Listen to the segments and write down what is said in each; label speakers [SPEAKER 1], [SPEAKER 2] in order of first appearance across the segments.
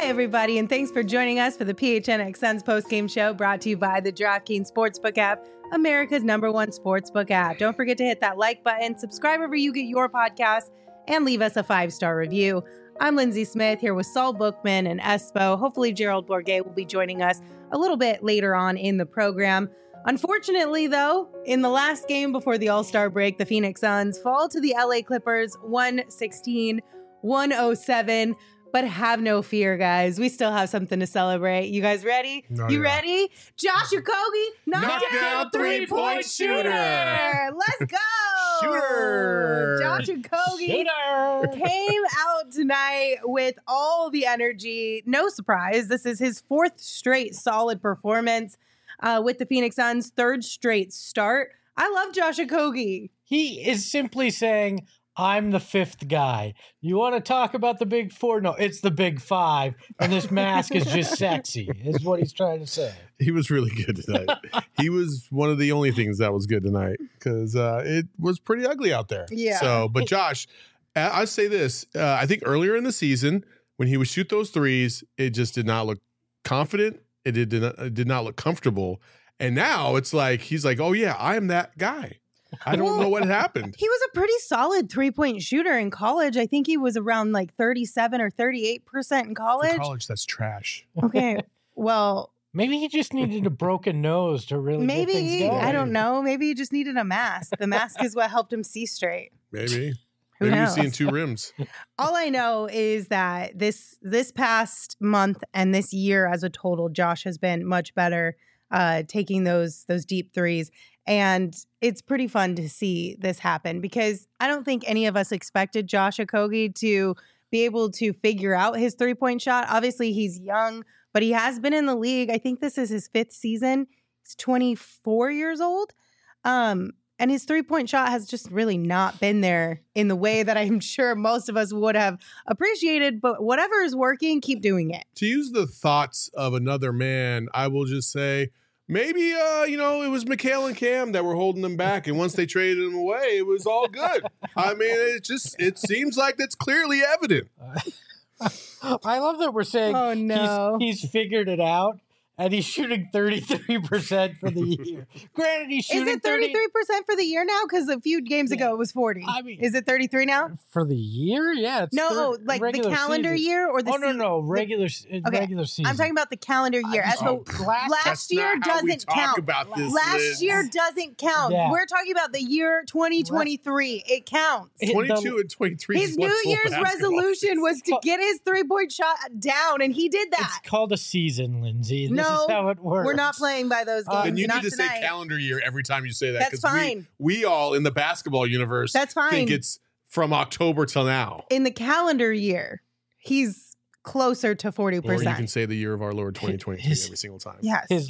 [SPEAKER 1] everybody, and thanks for joining us for the PHNX Suns postgame show brought to you by the DraftKings Sportsbook app, America's #1 sportsbook app. Don't forget to hit that like button, subscribe wherever you get your podcasts, and leave us a 5-star review. I'm Lindsay Smith here with Saul Bookman and Espo. Hopefully Gerald Bourguet will be joining us a little bit later on in the program. Unfortunately, though, in the last game before the All-Star break, the Phoenix Suns fall to the LA Clippers 116-107. But have no fear, guys. We still have something to celebrate. You guys ready? Ready? Josh Okogie, knocked down three-point shooter. Let's go.
[SPEAKER 2] Shooter.
[SPEAKER 1] Josh Okogie came out tonight with all the energy. No surprise. This is his 4th straight solid performance with the Phoenix Suns, 3rd straight start. I love Josh Okogie.
[SPEAKER 2] He is simply saying, I'm the 5th guy. You want to talk about the big 4? No, it's the big 5. And this mask is just sexy, is what he's trying to say.
[SPEAKER 3] He was really good tonight. He was one of the only things that was good tonight because it was pretty ugly out there.
[SPEAKER 1] Yeah.
[SPEAKER 3] So, but Josh, I say this. I think earlier in the season, when he would shoot those threes, it just did not look confident. It did not look comfortable. And now it's like, he's like, oh yeah, I am that guy. I don't know what happened.
[SPEAKER 1] He was a pretty solid 3-point shooter in college. I think he was around like 37 or 38% in college.
[SPEAKER 4] For college, that's trash.
[SPEAKER 1] Okay. Well,
[SPEAKER 2] maybe he just needed a broken nose to really get things going.
[SPEAKER 1] I don't know. Maybe he just needed a mask. The mask is what helped him see straight.
[SPEAKER 3] Maybe.
[SPEAKER 1] Who
[SPEAKER 3] Maybe
[SPEAKER 1] knows?
[SPEAKER 3] he's seeing 2 rims.
[SPEAKER 1] All I know is that this past month and this year as a total, Josh has been much better taking those deep threes. And it's pretty fun to see this happen because I don't think any of us expected Josh Okogie to be able to figure out his 3-point shot. Obviously, he's young, but he has been in the league. I think this is his 5th season. He's 24 years old. And his 3-point shot has just really not been there in the way that I'm sure most of us would have appreciated. But whatever is working, keep doing it.
[SPEAKER 3] To use the thoughts of another man, I will just say, maybe, it was Mikal and Cam that were holding them back. And once they traded them away, it was all good. I mean, it seems like that's clearly evident.
[SPEAKER 2] I love that we're saying
[SPEAKER 1] Oh, no.
[SPEAKER 2] he's figured it out. And he's shooting 33% for the year. Granted, he's shooting
[SPEAKER 1] Is it 33% for the year now? Because a few games ago it was 40.
[SPEAKER 2] I mean,
[SPEAKER 1] is it 33 now?
[SPEAKER 2] For the year? Yeah. It's
[SPEAKER 1] No, like the calendar year or the season?
[SPEAKER 2] No. Regular season.
[SPEAKER 1] I'm talking about the calendar year. Last year doesn't count. Last year doesn't count.
[SPEAKER 2] Yeah.
[SPEAKER 1] We're talking about the year 2023. It counts.
[SPEAKER 3] 22 and 23.
[SPEAKER 1] His New Year's resolution was to get his 3-point shot down, and he did that.
[SPEAKER 2] It's called a season, Lindsay. This
[SPEAKER 1] No,
[SPEAKER 2] is how it works.
[SPEAKER 1] we're not playing by those games.
[SPEAKER 3] And you
[SPEAKER 1] not
[SPEAKER 3] need to
[SPEAKER 1] tonight.
[SPEAKER 3] say calendar year every time you say that.
[SPEAKER 1] That's fine.
[SPEAKER 3] We all in the basketball universe
[SPEAKER 1] That's fine.
[SPEAKER 3] think it's from October till now.
[SPEAKER 1] In the calendar year, he's closer to 40%.
[SPEAKER 3] Or you can say the year of our Lord 2023 every single time.
[SPEAKER 1] Yes.
[SPEAKER 2] His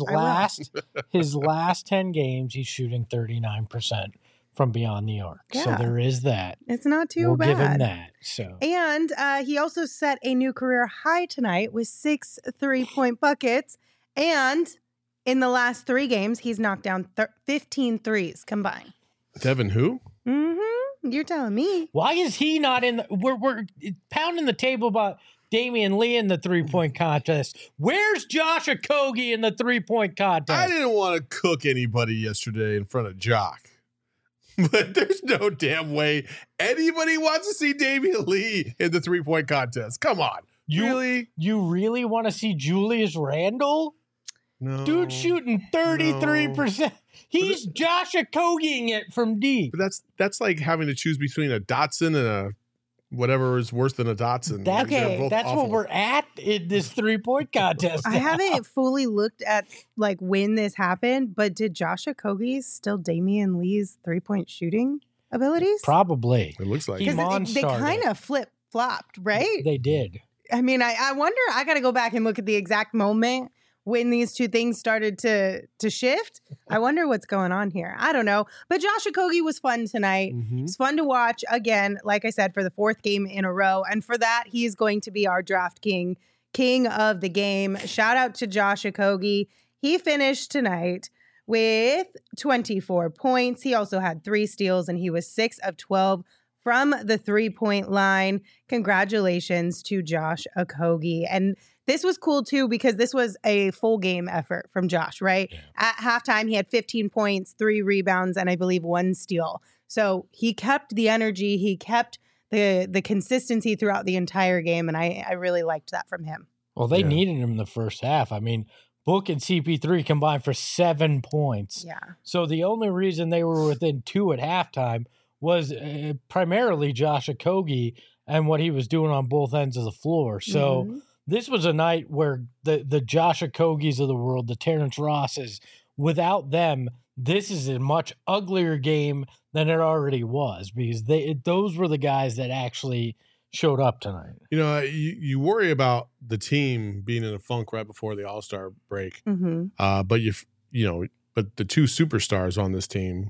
[SPEAKER 2] last 10 games, he's shooting 39% from beyond the arc.
[SPEAKER 1] Yeah.
[SPEAKER 2] So there is that.
[SPEAKER 1] It's not too
[SPEAKER 2] we'll
[SPEAKER 1] bad.
[SPEAKER 2] give him that. So.
[SPEAKER 1] And he also set a new career high tonight with 6 3-point buckets. And in the last 3 games, he's knocked down 15 threes combined.
[SPEAKER 3] Devin who?
[SPEAKER 1] Mm-hmm. You're telling me.
[SPEAKER 2] Why is he not in the... We're pounding the table about Damian Lee in the 3-point contest. Where's Josh Okogie in the 3-point contest?
[SPEAKER 3] I didn't want to cook anybody yesterday in front of Jock. But there's no damn way anybody wants to see Damian Lee in the 3-point contest. Come on.
[SPEAKER 2] You really want to see Julius Randle?
[SPEAKER 3] No.
[SPEAKER 2] Dude shooting 33%.
[SPEAKER 3] No.
[SPEAKER 2] He's Josh Okogieing it from deep.
[SPEAKER 3] But that's like having to choose between a Dotson and a whatever is worse than a Dotson.
[SPEAKER 2] That's
[SPEAKER 3] awful.
[SPEAKER 2] what we're at in this 3-point contest.
[SPEAKER 1] I haven't fully looked at like when this happened, but did Josh Okogie still Damian Lee's 3-point shooting abilities?
[SPEAKER 3] Probably. It looks like
[SPEAKER 1] because they kind of flip-flopped, right?
[SPEAKER 2] They did.
[SPEAKER 1] I mean, I wonder, I got to go back and look at the exact moment when these two things started to shift. I wonder what's going on here. I don't know. But Josh Okogie was fun tonight.
[SPEAKER 3] Mm-hmm.
[SPEAKER 1] It's fun to watch, again, like I said, for the 4th game in a row. And for that, he is going to be our draft king of the game. Shout out to Josh Okogie. He finished tonight with 24 points. He also had 3 steals, and he was 6 of 12 from the 3-point line. Congratulations to Josh Okogie. And this was cool too because this was a full game effort from Josh, right?
[SPEAKER 2] Yeah.
[SPEAKER 1] At halftime, he had 15 points, 3 rebounds, and I believe 1 steal. So he kept the energy, he kept the consistency throughout the entire game, and I really liked that from him.
[SPEAKER 2] Well, they
[SPEAKER 3] Yeah.
[SPEAKER 2] needed him in the first half. I mean, Book and CP3 combined for 7 points.
[SPEAKER 1] Yeah.
[SPEAKER 2] So the only reason they were within 2 at halftime was primarily Josh Okogie and what he was doing on both ends of the floor. So
[SPEAKER 1] Mhm.
[SPEAKER 2] this was a night where the Josh Okogies of the world, the Terrence Rosses, without them, this is a much uglier game than it already was because those were the guys that actually showed up tonight.
[SPEAKER 3] You know, you worry about the team being in a funk right before the All-Star break,
[SPEAKER 1] Mhm.
[SPEAKER 3] but the 2 superstars on this team,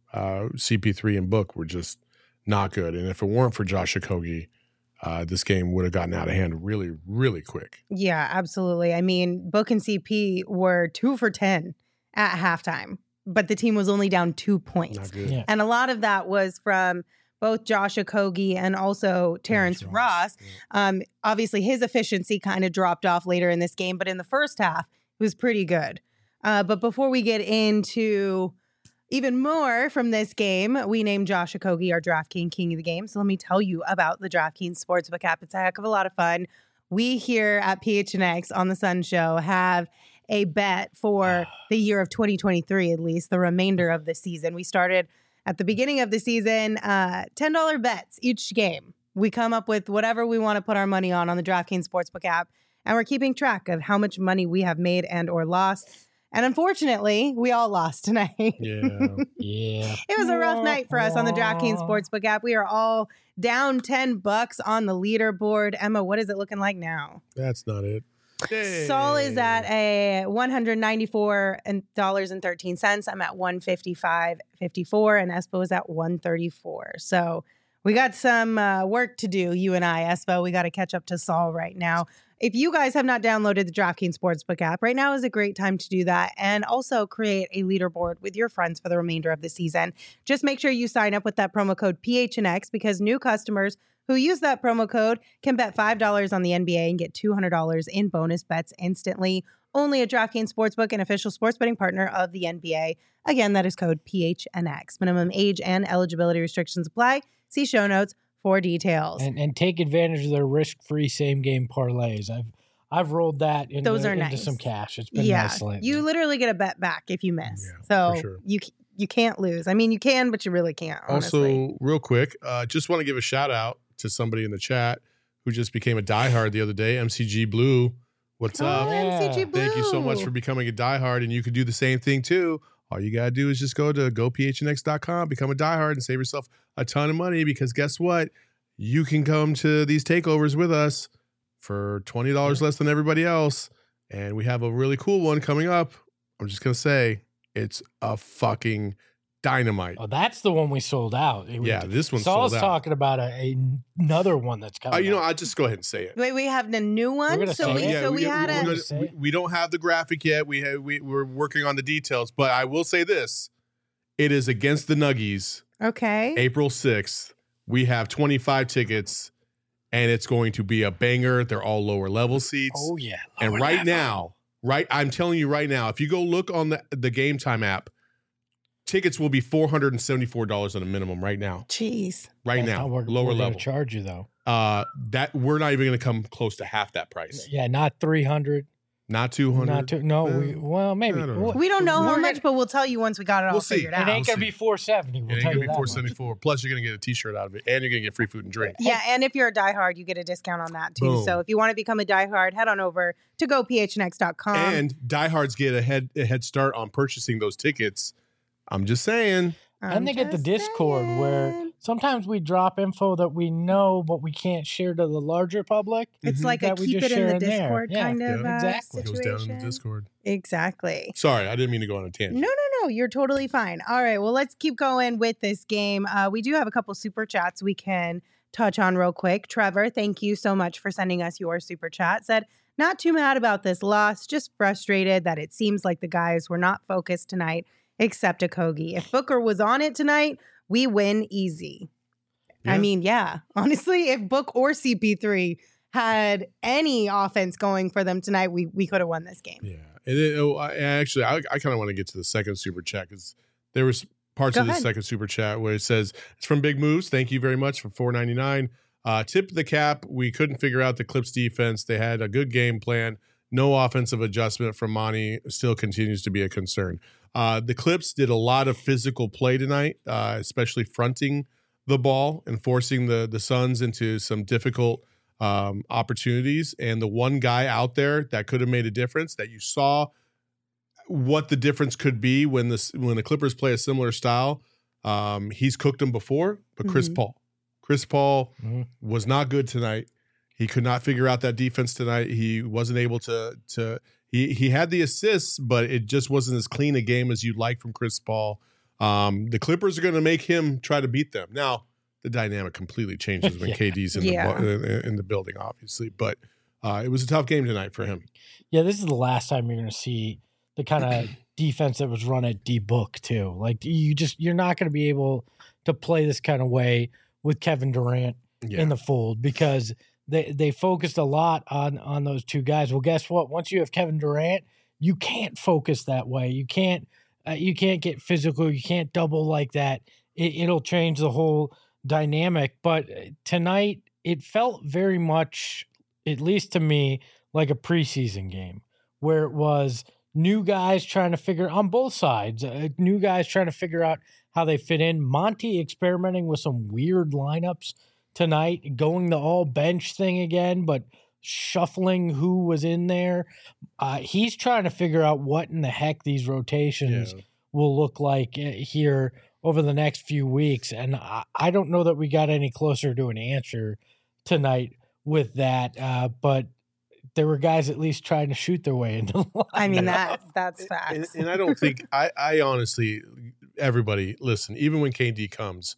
[SPEAKER 3] CP3 and Book, were just not good. And if it weren't for Josh Okogie, this game would have gotten out of hand really, really quick.
[SPEAKER 1] Yeah, absolutely. I mean, Book and CP were 2 for 10 at halftime, but the team was only down 2 points.
[SPEAKER 3] Not good.
[SPEAKER 2] Yeah.
[SPEAKER 1] And a lot of that was from both Josh Okogie and also Terrence Ross. Obviously, his efficiency kind of dropped off later in this game, but in the first half, it was pretty good. But before we get into even more from this game, we named Josh Okogie our DraftKings King of the Game. So let me tell you about the DraftKings Sportsbook app. It's a heck of a lot of fun. We here at PHNX on the Sun Show have a bet for the year of 2023, at least the remainder of the season. We started at the beginning of the season, $10 bets each game. We come up with whatever we want to put our money on the DraftKings Sportsbook app, and we're keeping track of how much money we have made and or lost. And unfortunately, we all lost tonight.
[SPEAKER 3] Yeah.
[SPEAKER 2] Yeah.
[SPEAKER 1] It was a rough night for us on the DraftKings Sportsbook app. We are all down $10 on the leaderboard. Emma, what is it looking like now?
[SPEAKER 3] That's not it.
[SPEAKER 1] Saul is at a $194.13. I'm at $155.54, and Espo is at $134. So we got some work to do, you and I, Espo. We got to catch up to Saul right now. If you guys have not downloaded the DraftKings Sportsbook app, right now is a great time to do that and also create a leaderboard with your friends for the remainder of the season. Just make sure you sign up with that promo code PHNX because new customers who use that promo code can bet $5 on the NBA and get $200 in bonus bets instantly. Only at DraftKings Sportsbook, an official sports betting partner of the NBA. Again, that is code PHNX. Minimum age and eligibility restrictions apply. See show notes for details.
[SPEAKER 2] And take advantage of their risk-free same-game parlays. I've rolled that into
[SPEAKER 1] nice.
[SPEAKER 2] some cash. It's been nice lately.
[SPEAKER 1] You literally get a bet back if you miss.
[SPEAKER 3] Yeah,
[SPEAKER 1] so
[SPEAKER 3] for sure.
[SPEAKER 1] you can't lose. I mean, you can, but you really can't, honestly.
[SPEAKER 3] Also, real quick, just want to give a shout out to somebody in the chat who just became a diehard the other day, MCG Blue. What's up?
[SPEAKER 1] MCG Blue.
[SPEAKER 3] Thank you so much for becoming a diehard, and you can do the same thing too. All you gotta do is just go to gophnx.com, become a diehard, and save yourself a ton of money because guess what? You can come to these takeovers with us for $20 less than everybody else. And we have a really cool one coming up. I'm just gonna say it's a fucking dynamite.
[SPEAKER 2] Oh, that's the one we sold out.
[SPEAKER 3] Yeah, this one's
[SPEAKER 2] Saul's
[SPEAKER 3] sold out.
[SPEAKER 2] talking about another one that's coming.
[SPEAKER 3] I'll just go ahead and say it.
[SPEAKER 1] Wait, we have a new one.
[SPEAKER 2] gonna
[SPEAKER 1] So
[SPEAKER 2] say it.
[SPEAKER 1] we had
[SPEAKER 2] we're
[SPEAKER 1] a.
[SPEAKER 2] gonna-
[SPEAKER 3] we don't have the graphic yet. We're working on the details, but I will say this: it is against the Nuggies,
[SPEAKER 1] Okay.
[SPEAKER 3] April 6th. We have 25 tickets, and it's going to be a banger. They're all lower level seats.
[SPEAKER 2] Oh yeah.
[SPEAKER 3] and
[SPEAKER 2] Lower
[SPEAKER 3] right
[SPEAKER 2] level.
[SPEAKER 3] now, I'm telling you right now, if you go look on the Game Time app, tickets will be $474 on a minimum right now.
[SPEAKER 1] Jeez.
[SPEAKER 3] Right
[SPEAKER 2] That's
[SPEAKER 3] now,
[SPEAKER 2] how we're
[SPEAKER 3] lower
[SPEAKER 2] gonna
[SPEAKER 3] level.
[SPEAKER 2] charge you though.
[SPEAKER 3] That we're not even going to come close to half that price.
[SPEAKER 2] Yeah, not 300.
[SPEAKER 3] Not 200.
[SPEAKER 2] Not two. No, maybe.
[SPEAKER 3] I don't know.
[SPEAKER 1] We don't know how
[SPEAKER 2] We're
[SPEAKER 1] much, but we'll tell you once we got it all
[SPEAKER 3] We'll see.
[SPEAKER 1] figured
[SPEAKER 2] It
[SPEAKER 1] out.
[SPEAKER 2] ain't gonna
[SPEAKER 3] We'll
[SPEAKER 2] be
[SPEAKER 3] see.
[SPEAKER 2] 470. We'll
[SPEAKER 3] It ain't
[SPEAKER 2] tell
[SPEAKER 3] gonna
[SPEAKER 2] you
[SPEAKER 3] be
[SPEAKER 2] that much.
[SPEAKER 3] 474. Plus, you're gonna get a T-shirt out of it, and you're gonna get free food and drink.
[SPEAKER 1] Yeah, and if you're a diehard, you get a discount on that too.
[SPEAKER 3] Boom.
[SPEAKER 1] So if you want to become a diehard, head on over to gophnx.com.
[SPEAKER 3] And diehards get a head start on purchasing those tickets. I'm just saying.
[SPEAKER 2] And they get the Discord where sometimes we drop info that we know, but we can't share to the larger public.
[SPEAKER 1] It's
[SPEAKER 3] Mhm.
[SPEAKER 1] like a
[SPEAKER 2] that we
[SPEAKER 1] keep
[SPEAKER 2] just
[SPEAKER 1] it in
[SPEAKER 2] share
[SPEAKER 1] the
[SPEAKER 2] in there.
[SPEAKER 1] Discord
[SPEAKER 2] Yeah,
[SPEAKER 1] kind of
[SPEAKER 3] yeah,
[SPEAKER 2] exactly.
[SPEAKER 3] It goes
[SPEAKER 1] situation.
[SPEAKER 3] down in the Discord.
[SPEAKER 1] Exactly.
[SPEAKER 3] Sorry, I didn't mean to go on a tangent.
[SPEAKER 1] No, you're totally fine. All right, well, let's keep going with this game. We do have a couple super chats we can touch on real quick. Trevor, thank you so much for sending us your super chat. Said, not too mad about this loss, just frustrated that it seems like the guys were not focused tonight, except Okogie. If Booker was on it tonight, we win easy.
[SPEAKER 3] Yeah.
[SPEAKER 1] I mean, yeah, honestly, if Book or CP3 had any offense going for them tonight, we could have won this game.
[SPEAKER 3] Yeah. And I kind of want to get to the second super chat because there was parts
[SPEAKER 1] Go
[SPEAKER 3] of the
[SPEAKER 1] ahead.
[SPEAKER 3] second super chat where it says it's from Big Moves. Thank you very much for $4.99. Tip the cap. We couldn't figure out the Clips defense. They had a good game plan. No offensive adjustment from Monty still continues to be a concern. The Clips did a lot of physical play tonight, especially fronting the ball and forcing the Suns into some difficult opportunities. And the one guy out there that could have made a difference, that you saw what the difference could be when the Clippers play a similar style, he's cooked them before, but Chris Paul. Chris Paul was not good tonight. He could not figure out that defense tonight. He wasn't able to he had the assists, but it just wasn't as clean a game as you'd like from Chris Paul. The Clippers are going to make him try to beat them. Now, the dynamic completely changes when KD's in the building, obviously. But it was a tough game tonight for him.
[SPEAKER 2] Yeah, this is the last time you're going to see the kind of defense that was run at D-Book, too. Like, you're not going to be able to play this kind of way with Kevin Durant in the fold because they focused a lot on those two guys. Well, guess what? Once you have Kevin Durant, you can't focus that way. You can't get physical. You can't double like that. It'll change the whole dynamic. But tonight, it felt very much, at least to me, like a preseason game where it was new guys trying to figure on both sides, new guys trying to figure out how they fit in. Monty experimenting with some weird lineups tonight, going the all bench thing again, but shuffling who was in there. He's trying to figure out what in the heck these rotations will look like here over the next few weeks. And I don't know that we got any closer to an answer tonight with that. But there were guys at least trying to shoot their way into the line.
[SPEAKER 1] I mean, that's facts.
[SPEAKER 3] And I don't think I honestly, everybody listen, even when KD comes,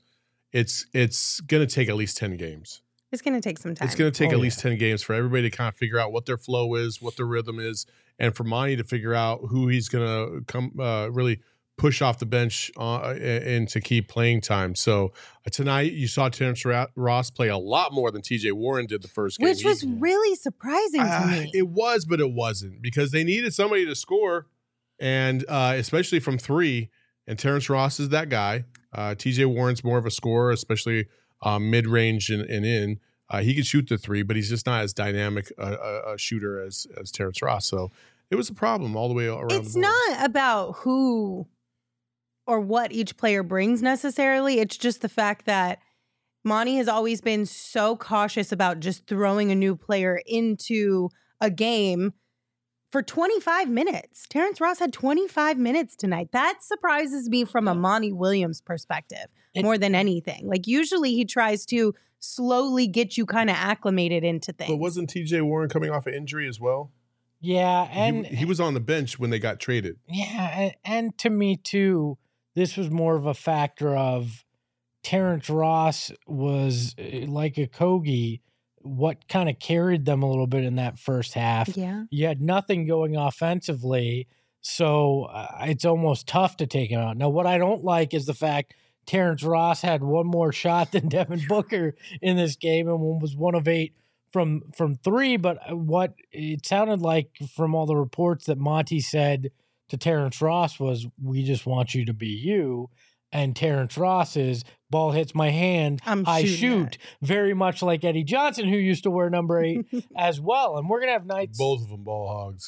[SPEAKER 3] it's going to take at least 10 games.
[SPEAKER 1] It's going to take some time.
[SPEAKER 3] It's going to take at least 10 games for everybody to kind of figure out what their flow is, what their rhythm is, and for Monty to figure out who he's going to come really push off the bench and to keep playing time. So tonight you saw Terrence Ross play a lot more than TJ Warren did the first game.
[SPEAKER 1] Which was really surprising to me.
[SPEAKER 3] It was, but it wasn't because they needed somebody to score, and especially from three, and Terrence Ross is that guy. TJ Warren's more of a scorer, especially mid-range and in. He could shoot the three, but he's just not as dynamic a shooter as Terrence Ross. So it was a problem all the way around.
[SPEAKER 1] It's not about who or what each player brings necessarily. It's just the fact that Monty has always been so cautious about just throwing a new player into a game for 25 minutes. Terrence Ross had 25 minutes tonight. That surprises me from a Monty Williams perspective more than anything. Like usually he tries to slowly get you kind of acclimated into things.
[SPEAKER 3] But wasn't TJ Warren coming off an injury as well?
[SPEAKER 2] Yeah, and
[SPEAKER 3] he was on the bench when they got traded.
[SPEAKER 2] Yeah, and to me too, this was more of a factor of Terrence Ross was like a Kogi, what kind of carried them a little bit in that first half.
[SPEAKER 1] Yeah.
[SPEAKER 2] You had nothing going offensively, so it's almost tough to take him out. Now, what I don't like is the fact Terrence Ross had one more shot than Devin Booker in this game and was 1 of 8 from three. But what it sounded like from all the reports that Monty said to Terrence Ross was, we just want you to be you. And Terrence Ross is, ball hits my hand, I shoot. Very much like Eddie Johnson, who used to wear number 8 as well. And we're going to have nights.
[SPEAKER 3] Both of them ball hogs.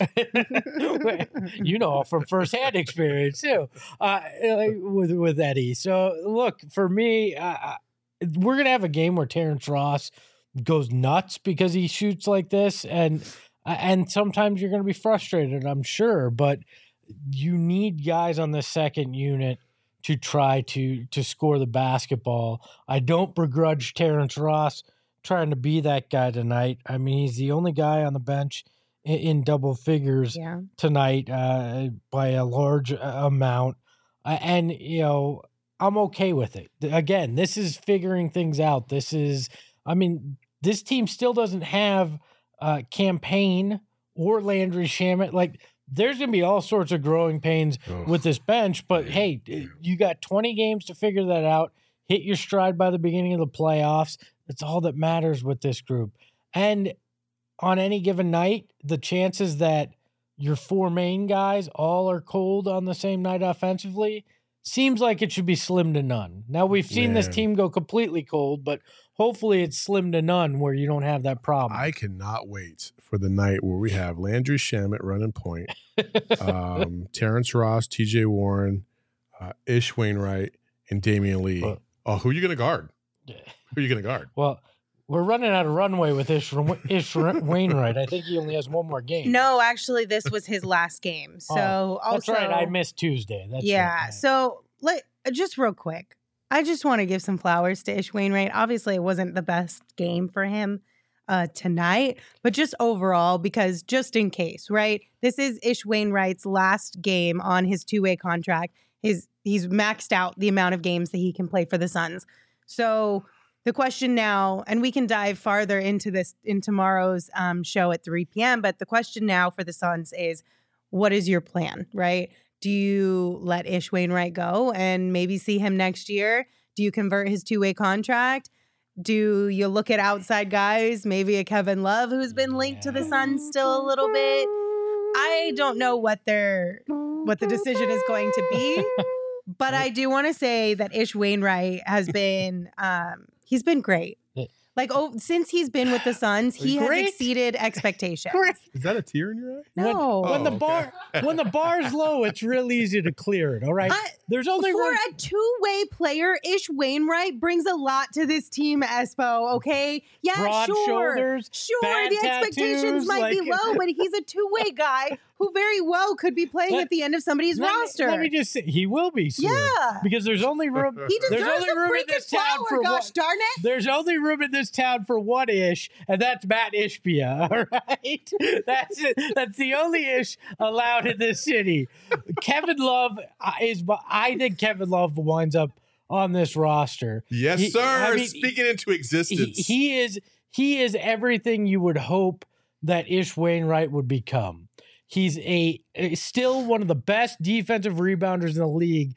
[SPEAKER 2] You know, from firsthand experience, too, with Eddie. So, look, for me, we're going to have a game where Terrence Ross goes nuts because he shoots like this. And sometimes you're going to be frustrated, I'm sure. But you need guys on the second unit to try to score the basketball. I don't begrudge Terrence Ross trying to be that guy tonight. I mean, he's the only guy on the bench in double figures tonight by a large amount. And, you know, I'm okay with it. Again, this is figuring things out. This team still doesn't have Campaign or Landry Shamet. Like, there's going to be all sorts of growing pains with this bench, but hey, you got 20 games to figure that out. Hit your stride by the beginning of the playoffs. That's all that matters with this group. And on any given night, the chances that your 4 main guys all are cold on the same night offensively seems like it should be slim to none. Now, we've seen this team go completely cold, but hopefully it's slim to none where you don't have that problem.
[SPEAKER 3] I cannot wait for the night where we have Landry Shamet running point, Terrence Ross, TJ Warren, Ish Wainwright, and Damian Lee. Who are you going to guard? Who are you going to guard?
[SPEAKER 2] Well, we're running out of runway with Ish Wainwright. I think he only has one more game.
[SPEAKER 1] No, actually, this was his last game. So
[SPEAKER 2] that's
[SPEAKER 1] also,
[SPEAKER 2] right. I missed Tuesday. That's
[SPEAKER 1] yeah.
[SPEAKER 2] right.
[SPEAKER 1] So just real quick, I just want to give some flowers to Ish Wainwright. Obviously, it wasn't the best game for him tonight, but just overall, because just in case, right? This is Ish Wainwright's last game on his 2-way contract. He's maxed out the amount of games that he can play for the Suns. So the question now, and we can dive farther into this in tomorrow's show at 3 p.m., but the question now for the Suns is, what is your plan, right? Do you let Ish Wainwright go and maybe see him next year? Do you convert his 2-way contract? Do you look at outside guys, maybe a Kevin Love who's been linked to the Suns still a little bit? I don't know what the decision is going to be, but I do want to say that Ish Wainwright has been he's been great. Like, since he's been with the Suns, he has exceeded expectations.
[SPEAKER 3] Is that a tear in your eye?
[SPEAKER 1] No.
[SPEAKER 2] When the bar's low, it's real easy to clear it. All right. There's only
[SPEAKER 1] for a 2-way player, Ish Wainwright brings a lot to this team, Espo. Okay, yeah,
[SPEAKER 2] broad shoulders, bad
[SPEAKER 1] the expectations
[SPEAKER 2] tattoos,
[SPEAKER 1] might be low, but he's a 2-way guy who very well could be playing at the end of somebody's roster.
[SPEAKER 2] Let me just say, he will be soon.
[SPEAKER 1] Yeah,
[SPEAKER 2] because there's only room.
[SPEAKER 1] He deserves
[SPEAKER 2] there's only
[SPEAKER 1] a
[SPEAKER 2] room in this town
[SPEAKER 1] flower,
[SPEAKER 2] for
[SPEAKER 1] gosh darn it.
[SPEAKER 2] There's only room in this town for one Ish, and that's Matt Ishbia. All right, that's it. That's the only Ish allowed in this city. Kevin Love I think Kevin Love winds up on this roster.
[SPEAKER 3] Yes, sir. Speaking into existence.
[SPEAKER 2] He is everything you would hope that Ish Wainwright would become. He's still one of the best defensive rebounders in the league.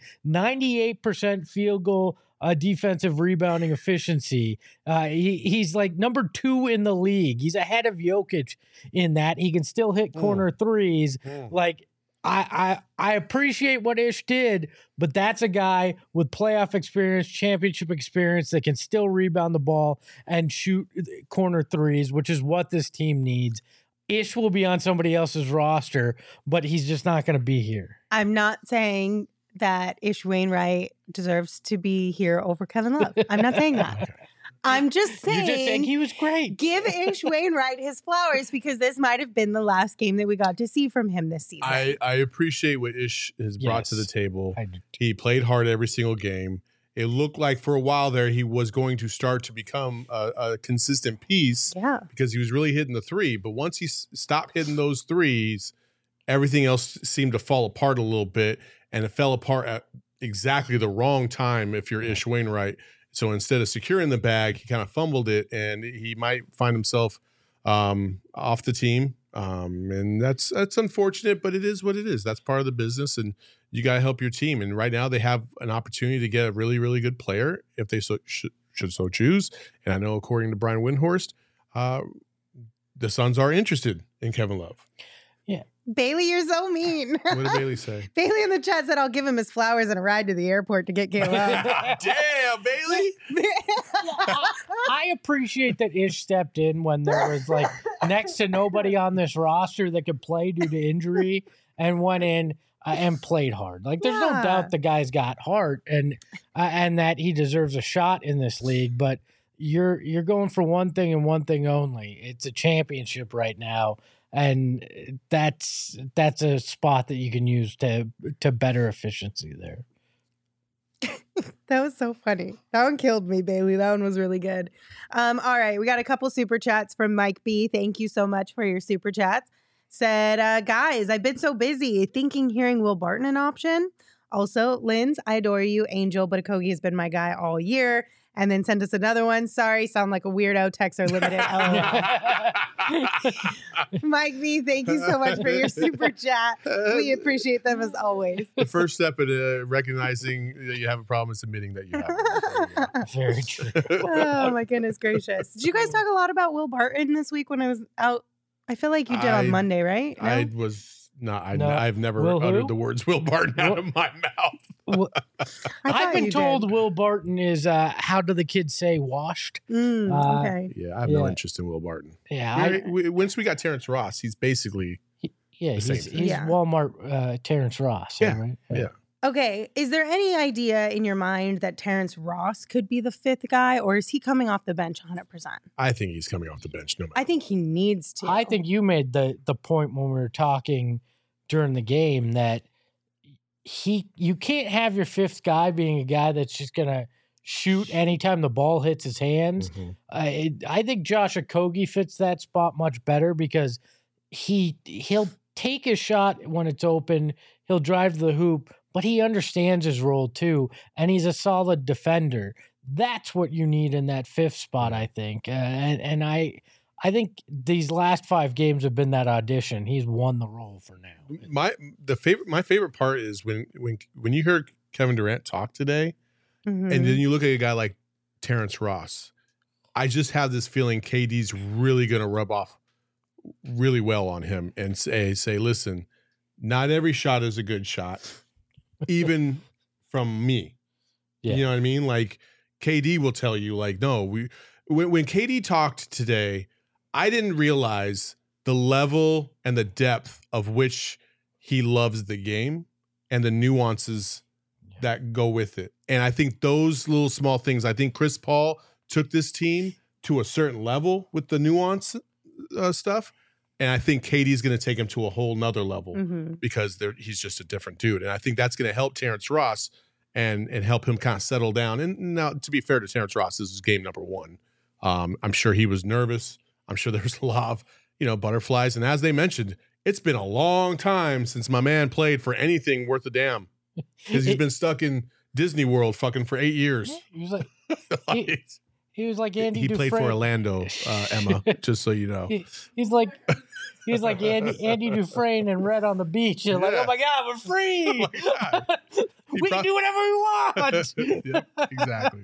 [SPEAKER 2] 98% field goal defensive rebounding efficiency. He's like number 2 in the league. He's ahead of Jokic in that. He can still hit corner threes. Like, I appreciate what Ish did, but that's a guy with playoff experience, championship experience that can still rebound the ball and shoot corner threes, which is what this team needs. Ish will be on somebody else's roster, but he's just not going to be here.
[SPEAKER 1] I'm not saying that Ish Wainwright deserves to be here over Kevin Love. I'm not saying that. I'm just saying.
[SPEAKER 2] You're just saying he was great.
[SPEAKER 1] Give Ish Wainwright his flowers, because this might have been the last game that we got to see from him this season.
[SPEAKER 3] I appreciate what Ish has brought to the table. He played hard every single game. It looked like for a while there he was going to start to become a consistent piece because he was really hitting the 3. But once he stopped hitting those 3s, everything else seemed to fall apart a little bit, and it fell apart at exactly the wrong time if you're Ish Wainwright. So instead of securing the bag, he kind of fumbled it, and he might find himself off the team. And that's unfortunate, but it is what it is. That's part of the business, and you got to help your team. And right now they have an opportunity to get a really, really good player if they should so choose. And I know, according to Brian Windhorst, the Suns are interested in Kevin Love.
[SPEAKER 2] Yeah.
[SPEAKER 1] Bailey, you're so mean.
[SPEAKER 3] What did Bailey say?
[SPEAKER 1] Bailey in the chat said, I'll give him his flowers and a ride to the airport to get Caleb.
[SPEAKER 3] Damn, Bailey.
[SPEAKER 2] I appreciate that Ish stepped in when there was like next to nobody on this roster that could play due to injury, and went in and played hard. Like, there's no doubt the guy's got heart, and that he deserves a shot in this league. But you're going for one thing and one thing only. It's a championship right now. And that's a spot that you can use to better efficiency there.
[SPEAKER 1] That was so funny. That one killed me, Bailey. That one was really good. All right, we got a couple super chats from Mike B. Thank you so much for your super chats. Said, guys, I've been so busy thinking hearing Will Barton an option. Also, Linz, I adore you. Angel, but Okogie has been my guy all year. And then send us another one. Sorry, sound like a weirdo. Texts are limited. Mike V, thank you so much for your super chat. We appreciate them as always.
[SPEAKER 3] The first step in recognizing that you have a problem is admitting that you have it.
[SPEAKER 2] Very true.
[SPEAKER 1] Oh, my goodness gracious. Did you guys talk a lot about Will Barton this week when I was out I feel like you did on Monday, right? No?
[SPEAKER 3] I was not.
[SPEAKER 2] No.
[SPEAKER 3] I've never
[SPEAKER 2] Will who?
[SPEAKER 3] uttered the words Will Barton out of my mouth.
[SPEAKER 2] I've been
[SPEAKER 1] you
[SPEAKER 2] told
[SPEAKER 1] did.
[SPEAKER 2] Will Barton is how do the kids say washed?
[SPEAKER 1] Okay.
[SPEAKER 3] Yeah, I have no interest in Will Barton.
[SPEAKER 2] Yeah,
[SPEAKER 3] Once we got Terrence Ross, he's basically
[SPEAKER 2] he's
[SPEAKER 1] Yeah.
[SPEAKER 2] Walmart Terrence Ross.
[SPEAKER 3] Yeah,
[SPEAKER 2] Right?
[SPEAKER 3] yeah.
[SPEAKER 1] Okay. Is there any idea in your mind that Terrence Ross could be the fifth guy, or is he coming off the bench 100%?
[SPEAKER 3] I think he's coming off the bench. No matter.
[SPEAKER 1] I think he needs to.
[SPEAKER 2] I think you made the point when we were talking during the game that you can't have your fifth guy being a guy that's just gonna shoot anytime the ball hits his hands. I think Josh Okogie fits that spot much better because he'll take his shot when it's open. He'll drive to the hoop, but he understands his role too, and he's a solid defender. That's what you need in that fifth spot, I think. And I think these last 5 games have been that audition. He's won the role for now.
[SPEAKER 3] My favorite part is when you heard Kevin Durant talk today,
[SPEAKER 1] Mhm.
[SPEAKER 3] and then you look at a guy like Terrence Ross. I just have this feeling KD's really going to rub off really well on him and say, listen, not every shot is a good shot, even from me.
[SPEAKER 2] Yeah.
[SPEAKER 3] You know what I mean? Like KD will tell you, like, no, when KD talked today, I didn't realize the level and the depth of which he loves the game and the nuances that go with it. And I think those little small things, I think Chris Paul took this team to a certain level with the nuance stuff. And I think KD's going to take him to a whole nother level because he's just a different dude. And I think that's going to help Terrence Ross and help him kind of settle down. And now, to be fair to Terrence Ross, this is game number 1. I'm sure he was nervous. I'm sure there's a lot of, butterflies. And as they mentioned, it's been a long time since my man played for anything worth a damn because he's been stuck in Disney World fucking for 8 years.
[SPEAKER 2] He was like, he was like Andy
[SPEAKER 3] He
[SPEAKER 2] Dufresne.
[SPEAKER 3] played for Orlando, Emma, just so you know.
[SPEAKER 2] He's like Andy Dufresne and Red on the Beach. You're like, oh my God, we're free. We can do whatever we want.
[SPEAKER 3] Yeah, exactly.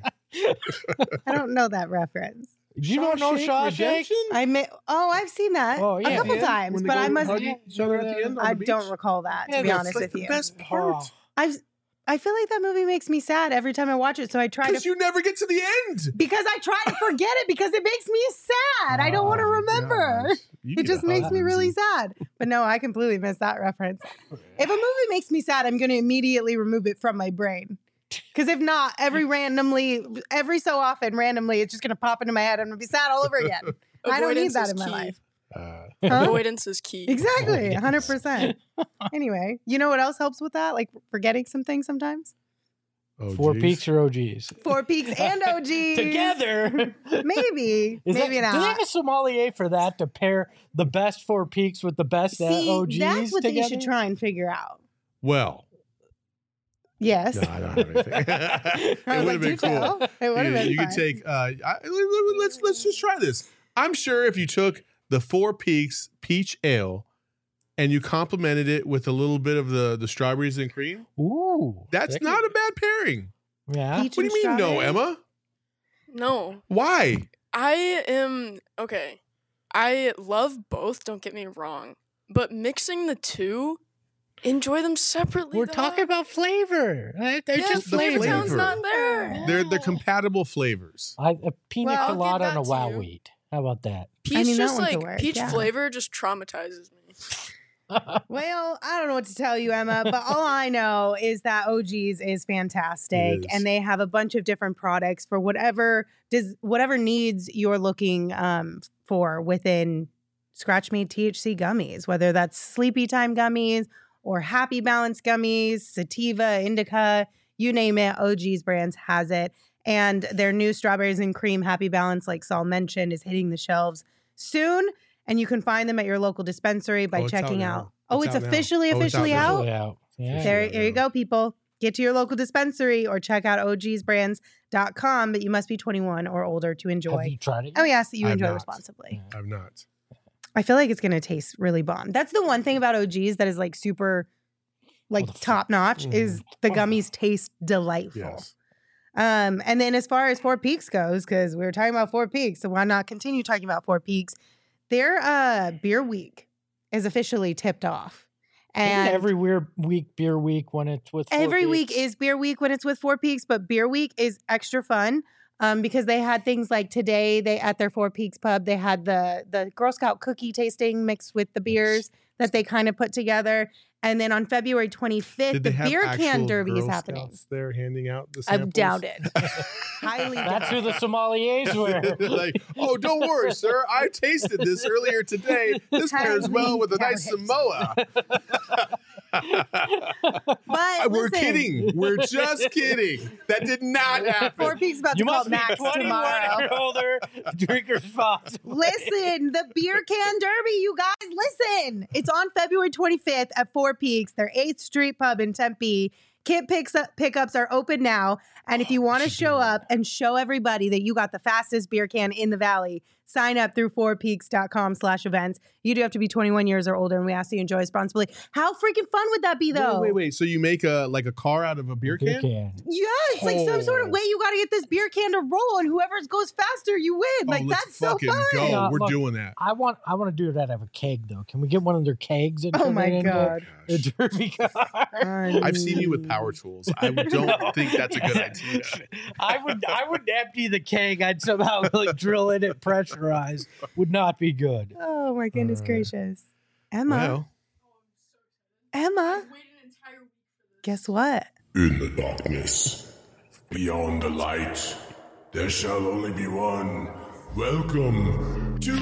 [SPEAKER 1] I don't know that reference.
[SPEAKER 2] You don't know Shawshank?
[SPEAKER 1] I've seen that a couple times, but I must. I don't recall that, to be honest with you.
[SPEAKER 3] The best part.
[SPEAKER 1] I feel like that movie makes me sad every time I watch it, so I try to.
[SPEAKER 3] Because you never get to the end.
[SPEAKER 1] Because I try to forget it because it makes me sad. I don't want to remember. It just makes me really sad. But no, I completely missed that reference. If a movie makes me sad, I'm going to immediately remove it from my brain. Because if not, every so often, randomly, it's just going to pop into my head. I'm going to be sad all over again. I don't need that in my life.
[SPEAKER 4] Avoidance is key.
[SPEAKER 1] Exactly, 100%. Anyway, you know what else helps with that? Like forgetting some things sometimes?
[SPEAKER 3] Oh,
[SPEAKER 2] 4 Peaks or OGs?
[SPEAKER 1] 4 Peaks and OGs.
[SPEAKER 2] Together.
[SPEAKER 1] Maybe. Maybe not.
[SPEAKER 2] Do they have a sommelier for that to pair the best 4 Peaks with the best OGs
[SPEAKER 1] that's what
[SPEAKER 2] together?
[SPEAKER 1] they should try and figure out.
[SPEAKER 3] Well.
[SPEAKER 1] Yes.
[SPEAKER 3] No, I don't have anything. It would have been cool.
[SPEAKER 1] It would have been
[SPEAKER 3] You
[SPEAKER 1] fun.
[SPEAKER 3] could take, let's just try this. I'm sure if you took the 4 Peaks Peach Ale and you complemented it with a little bit of the strawberries and cream, that's not a bad pairing.
[SPEAKER 2] Yeah.
[SPEAKER 1] Peach
[SPEAKER 3] What do you mean no, Emma?
[SPEAKER 4] No.
[SPEAKER 3] Why?
[SPEAKER 4] Okay. I love both, don't get me wrong. But mixing the two, enjoy them separately.
[SPEAKER 2] We're talking about flavor. They're just
[SPEAKER 4] flavor
[SPEAKER 2] flavor.
[SPEAKER 4] sounds not there.
[SPEAKER 3] They're compatible flavors.
[SPEAKER 2] A pina
[SPEAKER 4] Well, I'll
[SPEAKER 2] colada
[SPEAKER 4] give
[SPEAKER 2] and a
[SPEAKER 4] that
[SPEAKER 2] wow
[SPEAKER 4] to you.
[SPEAKER 2] wheat. How about that?
[SPEAKER 4] Peach
[SPEAKER 1] I mean, that
[SPEAKER 4] just
[SPEAKER 1] one could
[SPEAKER 4] like
[SPEAKER 1] work,
[SPEAKER 4] peach
[SPEAKER 1] yeah.
[SPEAKER 4] flavor just traumatizes me.
[SPEAKER 1] Well, I don't know what to tell you, Emma, but all I know is that OG's is fantastic,
[SPEAKER 3] It is.
[SPEAKER 1] and they have a bunch of different products for whatever needs you're looking for within Scratch Made THC gummies, whether that's Sleepy Time gummies or Happy Balance gummies, sativa, indica, you name it. OG's brands has it, and their new strawberries and cream Happy Balance, like Saul mentioned, is hitting the shelves soon. And you can find them at your local dispensary by
[SPEAKER 3] it's out
[SPEAKER 1] checking
[SPEAKER 3] now.
[SPEAKER 1] out. Oh, it's
[SPEAKER 3] out now.
[SPEAKER 1] officially
[SPEAKER 3] Oh, it's out now.
[SPEAKER 1] out?
[SPEAKER 2] Yeah.
[SPEAKER 1] There you go, people. Get to your local dispensary or check out ogsbrands.com, but you must be 21 or older to
[SPEAKER 2] Have
[SPEAKER 1] enjoy.
[SPEAKER 2] you tried it?
[SPEAKER 1] Oh, yes, that you
[SPEAKER 3] I have
[SPEAKER 1] enjoy
[SPEAKER 3] not.
[SPEAKER 1] responsibly.
[SPEAKER 3] I'm not.
[SPEAKER 1] I feel like it's going to taste really bomb. That's the one thing about OGs that is like super top notch is the gummies taste delightful.
[SPEAKER 3] Yes.
[SPEAKER 1] And then as far as 4 Peaks goes, because we were talking about 4 Peaks, so why not continue talking about 4 Peaks? their beer week is officially tipped off. And
[SPEAKER 2] every beer week when it's with Four
[SPEAKER 1] every week
[SPEAKER 2] Peaks?
[SPEAKER 1] is beer week when it's with Four Peaks, but beer week is extra fun because they had things like today. They at their Four Peaks pub, they had the Girl Scout cookie tasting mixed with the beers that they kind of put together. And then on February 25th,
[SPEAKER 3] Did
[SPEAKER 1] the
[SPEAKER 3] they have
[SPEAKER 1] beer can
[SPEAKER 3] actual
[SPEAKER 1] derby is
[SPEAKER 3] Girl
[SPEAKER 1] happening.
[SPEAKER 3] Scouts there handing out the
[SPEAKER 1] I
[SPEAKER 3] samples?
[SPEAKER 1] doubt it. Highly
[SPEAKER 2] That's who
[SPEAKER 1] doubt
[SPEAKER 2] the
[SPEAKER 1] it.
[SPEAKER 2] sommeliers were.
[SPEAKER 3] Like, oh, don't worry, sir. I tasted this earlier today. This pairs well with a nice
[SPEAKER 1] Highly
[SPEAKER 3] Samoa.
[SPEAKER 1] But
[SPEAKER 3] We're
[SPEAKER 1] listen,
[SPEAKER 3] kidding. We're just kidding. That did not happen.
[SPEAKER 1] Four Peaks about
[SPEAKER 2] You
[SPEAKER 1] to call
[SPEAKER 2] must be
[SPEAKER 1] Max
[SPEAKER 2] 21
[SPEAKER 1] tomorrow.
[SPEAKER 2] or older. Drink responsibly.
[SPEAKER 1] Listen, the beer can derby, you guys, listen. It's on February 25th at Four Peaks, their 8th Street pub in Tempe. Kit pickups are open now. And if you want to show up and show everybody that you got the fastest beer can in the valley, sign up through fourpeaks.com/events. You do have to be 21 years or older, and we ask that you enjoy responsibly. How freaking fun would that be, though?
[SPEAKER 3] Wait. So you make a car out of a beer can?
[SPEAKER 1] Yeah, it's like some sort of way you got to get this beer can to roll, and whoever goes faster, you win. Like,
[SPEAKER 3] let's
[SPEAKER 1] that's so
[SPEAKER 3] fucking
[SPEAKER 1] fun.
[SPEAKER 3] go.
[SPEAKER 2] Yeah,
[SPEAKER 3] We're
[SPEAKER 2] look,
[SPEAKER 3] doing that.
[SPEAKER 2] I want to do it out of a keg though. Can we get one of their kegs? And
[SPEAKER 1] Oh
[SPEAKER 2] turn
[SPEAKER 1] my
[SPEAKER 2] it into
[SPEAKER 1] God.
[SPEAKER 2] a derby car.
[SPEAKER 3] I've seen you with power tools. I don't think that's a good idea.
[SPEAKER 2] I would empty the keg. I'd somehow like drill in it pressurized. Would not be good.
[SPEAKER 1] Oh my goodness gracious. Emma.
[SPEAKER 3] Well,
[SPEAKER 1] Emma. Guess what?
[SPEAKER 5] In the darkness, beyond the light, there shall only be one. Welcome to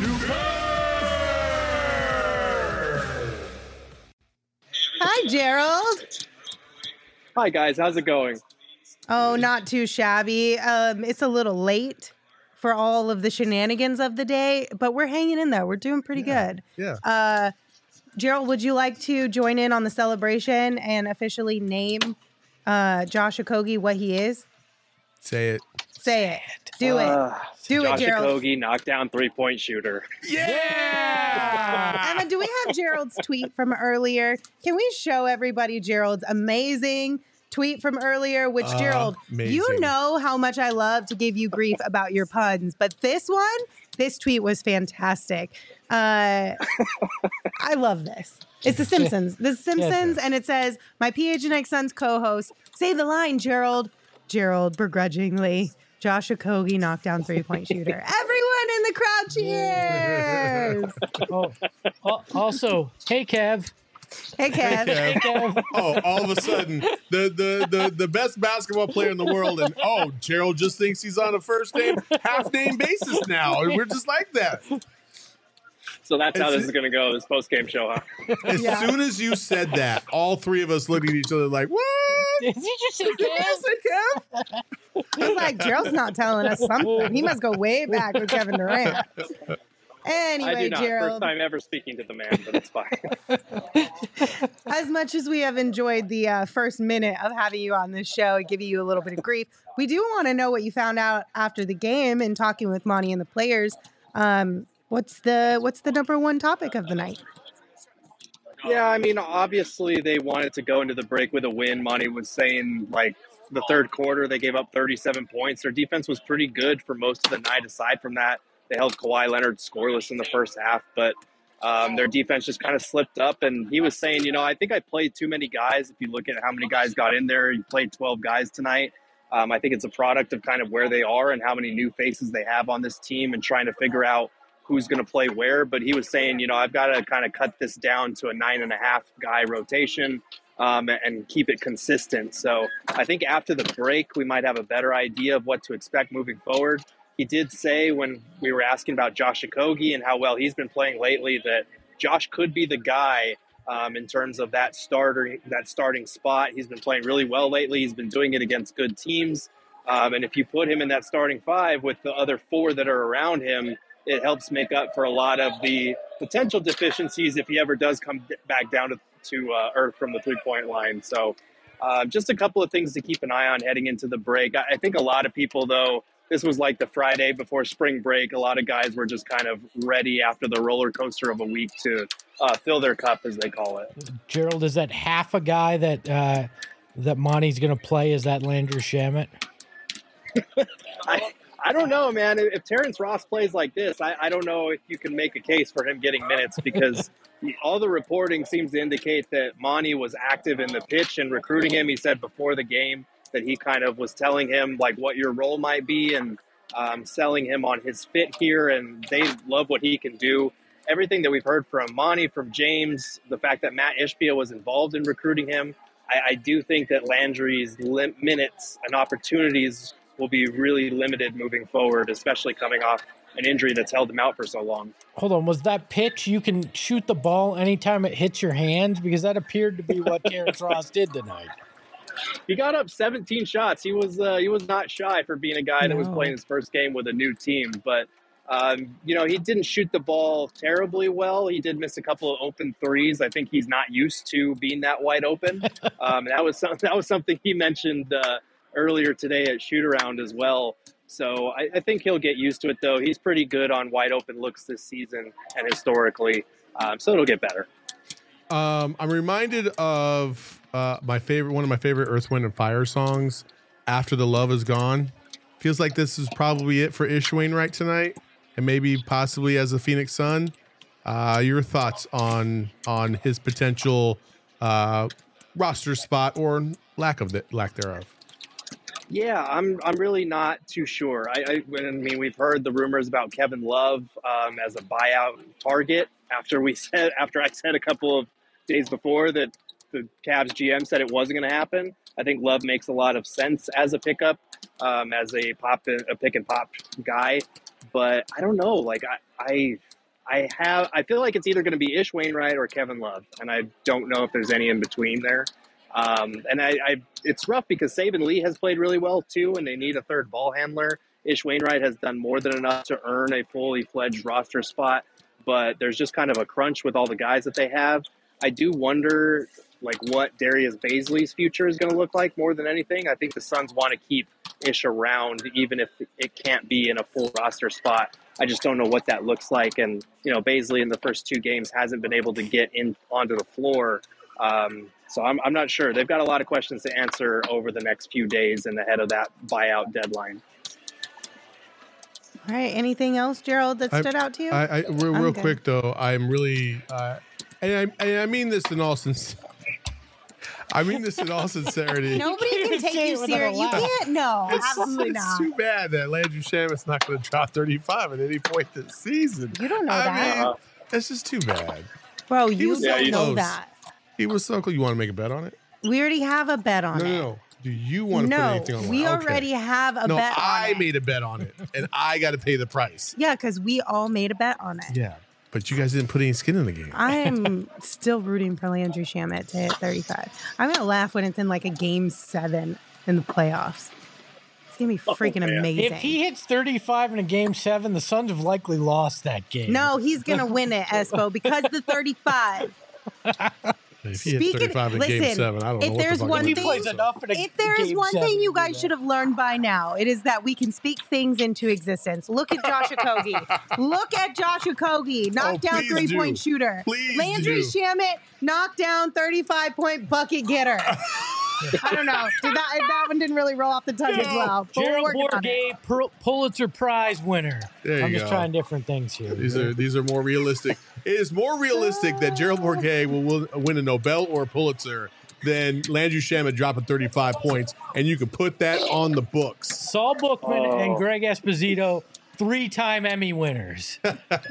[SPEAKER 1] Hi, Gerald.
[SPEAKER 6] Hi guys, how's it going?
[SPEAKER 1] Oh, not too shabby. It's a little late for all of the shenanigans of the day, but we're hanging in there. We're doing pretty good.
[SPEAKER 3] yeah.
[SPEAKER 1] Gerald, would you like to join in on the celebration and officially name Josh Okogie what he is?
[SPEAKER 3] Say it.
[SPEAKER 1] Say it. Do it. Do it,
[SPEAKER 6] Josh
[SPEAKER 1] Gerald.
[SPEAKER 6] Okogie, knockdown 3-point shooter.
[SPEAKER 2] Yeah.
[SPEAKER 1] Emma, do we have Gerald's tweet from earlier? Can we show everybody Gerald's amazing tweet from earlier? Which, Gerald,
[SPEAKER 3] amazing.
[SPEAKER 1] you know how much I love to give you grief about your puns, but this tweet was fantastic. I love this. It's The Simpsons. The Simpsons, and it says, my PHNX Suns co-host, say the line, Gerald. Gerald, begrudgingly. Josh Okogie, knockdown 3-point shooter. Everyone in the crowd cheers.
[SPEAKER 2] Also, hey Kev.
[SPEAKER 1] Hey, Kev.
[SPEAKER 3] Kev.
[SPEAKER 2] Kev.
[SPEAKER 3] Oh, all of a sudden, the best basketball player in the world, and Gerald just thinks he's on a first name, half name basis now. And we're just like that.
[SPEAKER 6] So that's how this is going to go, this post-game show, huh?
[SPEAKER 3] As soon as you said that, all three of us looked at each other like, what?
[SPEAKER 2] Did you just say
[SPEAKER 3] Did you
[SPEAKER 2] Kev?
[SPEAKER 3] say Kev?
[SPEAKER 1] He's like, Gerald's not telling us something. He must go way back with Kevin Durant. Anyway,
[SPEAKER 6] I do not. First
[SPEAKER 1] Gerald,
[SPEAKER 6] time ever speaking to the man, but it's fine.
[SPEAKER 1] as much as we have enjoyed the first minute of having you on this show and giving you a little bit of grief, we do want to know what you found out after the game and talking with Monty and the players. What's the number one topic of the night?
[SPEAKER 6] Yeah, I mean, obviously they wanted to go into the break with a win. Monty was saying, like, the third quarter, they gave up 37 points. Their defense was pretty good for most of the night. Aside from that, they held Kawhi Leonard scoreless in the first half, but their defense just kind of slipped up. And he was saying, I think I played too many guys. If you look at how many guys got in there, you played 12 guys tonight. I think it's a product of kind of where they are and how many new faces they have on this team and trying to figure out who's going to play where. But he was saying, I've got to kind of cut this down to a 9.5 guy rotation and keep it consistent. So I think after the break, we might have a better idea of what to expect moving forward. He did say when we were asking about Josh Okogie and how well he's been playing lately that Josh could be the guy in terms of that starting spot. He's been playing really well lately. He's been doing it against good teams. And if you put him in that starting five with the other four that are around him, it helps make up for a lot of the potential deficiencies if he ever does come back down to earth from the three-point line. So just a couple of things to keep an eye on heading into the break. I think a lot of people, though, this was like the Friday before spring break. A lot of guys were just kind of ready after the roller coaster of a week to fill their cup, as they call it.
[SPEAKER 2] Gerald, is that half a guy that Monty's going to play? Is that Landry Shamet?
[SPEAKER 6] I don't know, man. If Terrence Ross plays like this, I don't know if you can make a case for him getting minutes because all the reporting seems to indicate that Monty was active in the pitch and recruiting him. He said before the game that he kind of was telling him like what your role might be and selling him on his fit here, and they love what he can do. Everything that we've heard from Monty, from James, the fact that Matt Ishbia was involved in recruiting him, I do think that Landry's minutes and opportunities will be really limited moving forward, especially coming off an injury that's held him out for so long.
[SPEAKER 2] Hold on, was that pitch you can shoot the ball anytime it hits your hands? Because that appeared to be what Terrence Ross did tonight.
[SPEAKER 6] He got up 17 shots. He was not shy for being a guy that was playing his first game with a new team. But, he didn't shoot the ball terribly well. He did miss a couple of open threes. I think he's not used to being that wide open. That was something he mentioned earlier today at shoot-around as well. So I think he'll get used to it, though. He's pretty good on wide open looks this season and historically. So it'll get better.
[SPEAKER 3] I'm reminded of one of my favorite Earth, Wind, and Fire songs, After the Love Is Gone. Feels like this is probably it for Ish Wainwright tonight, and maybe possibly as a Phoenix Sun. Your thoughts on his potential roster spot or lack thereof?
[SPEAKER 6] Yeah, I'm really not too sure. I mean, we've heard the rumors about Kevin Love as a buyout target after I said a couple of days before that the Cavs GM said it wasn't going to happen. I think Love makes a lot of sense as a pickup, as a pick and pop guy. But I don't know. Like I feel like it's either going to be Ish Wainwright or Kevin Love, and I don't know if there's any in between there. And it's rough because Saban Lee has played really well too, and they need a third ball handler. Ish Wainwright has done more than enough to earn a fully fledged roster spot, but there's just kind of a crunch with all the guys that they have. I do wonder what Darius Baisley's future is going to look like more than anything. I think the Suns want to keep Ish around, even if it can't be in a full roster spot. I just don't know what that looks like. And, Baisley in the first two games hasn't been able to get in onto the floor. So I'm not sure. They've got a lot of questions to answer over the next few days and ahead of that buyout deadline.
[SPEAKER 1] All right. Anything else, Gerald, that stood out to you?
[SPEAKER 3] Real quick, though, I'm really and I mean this in all sincerity.
[SPEAKER 1] Nobody can take you serious. You can't. No, absolutely
[SPEAKER 3] it's
[SPEAKER 1] not.
[SPEAKER 3] It's too bad that Landry Shamet's not going to drop 35 at any point this season.
[SPEAKER 1] You don't know that.
[SPEAKER 3] It's just too bad.
[SPEAKER 1] Bro, you don't know that.
[SPEAKER 3] He was so close. You want to make a bet on it?
[SPEAKER 1] We already have a bet on it.
[SPEAKER 3] No. Do you want to put anything on it?
[SPEAKER 1] We already have a bet on it.
[SPEAKER 3] No, I made a bet on it, and I got to pay the price.
[SPEAKER 1] Yeah, because we all made a bet on it.
[SPEAKER 3] Yeah, but you guys didn't put any skin in the game.
[SPEAKER 1] I'm still rooting for Landry Shamet to hit 35. I'm going to laugh when it's in a game 7 in the playoffs. It's going to be freaking amazing.
[SPEAKER 2] If he hits 35 in a game 7, the Suns have likely lost that game.
[SPEAKER 1] No, he's going to win it, Espo, because the 35.
[SPEAKER 3] If he hits 35 in game 7, I don't know what the fuck
[SPEAKER 2] he plays enough in a
[SPEAKER 1] If there is one thing you guys
[SPEAKER 2] that.
[SPEAKER 1] should have learned by now, it is that we can speak things into existence. Look at Josh Okogie. Look at Josh Okogie. Knockdown three-point shooter.
[SPEAKER 3] Please
[SPEAKER 1] Landry Shamet, knockdown 35-point bucket getter. I don't know. That one didn't really roll off the tongue as well.
[SPEAKER 2] Gerald Bourguet, Pulitzer Prize winner. I'm just trying different things here.
[SPEAKER 3] These are more realistic. It is more realistic that Gerald Bourguet will win a Nobel or a Pulitzer than Landry Shamet dropping 35 points, and you can put that on the books.
[SPEAKER 2] Saul Bookman and Greg Esposito, 3-time Emmy winners.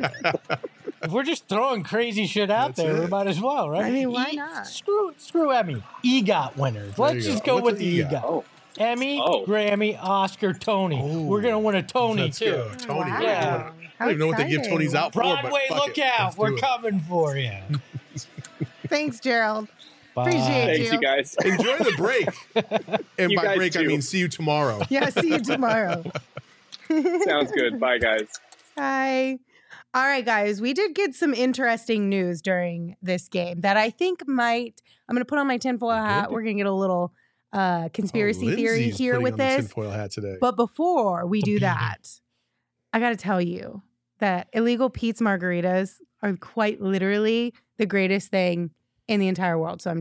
[SPEAKER 2] If we're just throwing crazy shit out there, we might as well, right?
[SPEAKER 1] I mean, why not?
[SPEAKER 2] Screw Emmy. EGOT winners. Let's just go with the EGOT.
[SPEAKER 6] Oh.
[SPEAKER 2] Emmy, Grammy, Oscar, Tony. We're going to win a Tony, too.
[SPEAKER 3] Go. Tony.
[SPEAKER 1] Wow.
[SPEAKER 2] Yeah.
[SPEAKER 3] I don't even know what they give Tonys out for.
[SPEAKER 2] Broadway,
[SPEAKER 3] but fuck
[SPEAKER 2] look
[SPEAKER 3] it.
[SPEAKER 2] out. We're coming for you.
[SPEAKER 1] Thanks, Gerald.
[SPEAKER 2] Bye.
[SPEAKER 1] Appreciate
[SPEAKER 6] Thanks, you guys.
[SPEAKER 3] Enjoy the break. And
[SPEAKER 6] You
[SPEAKER 3] by
[SPEAKER 6] guys
[SPEAKER 3] break, I
[SPEAKER 6] too.
[SPEAKER 3] mean see you tomorrow.
[SPEAKER 1] Yeah, see you tomorrow.
[SPEAKER 6] Sounds good. Bye, guys.
[SPEAKER 1] Hi. All right, guys, we did get some interesting news during this game that I think I'm going to put on my tinfoil hat. We're going to get a little conspiracy theory
[SPEAKER 3] Lindsay's
[SPEAKER 1] here
[SPEAKER 3] putting
[SPEAKER 1] with
[SPEAKER 3] on the
[SPEAKER 1] this.
[SPEAKER 3] tinfoil hat today.
[SPEAKER 1] But before we do that, I got to tell you that Illegal Pete's margaritas are quite literally the greatest thing in the entire world, so I'm told.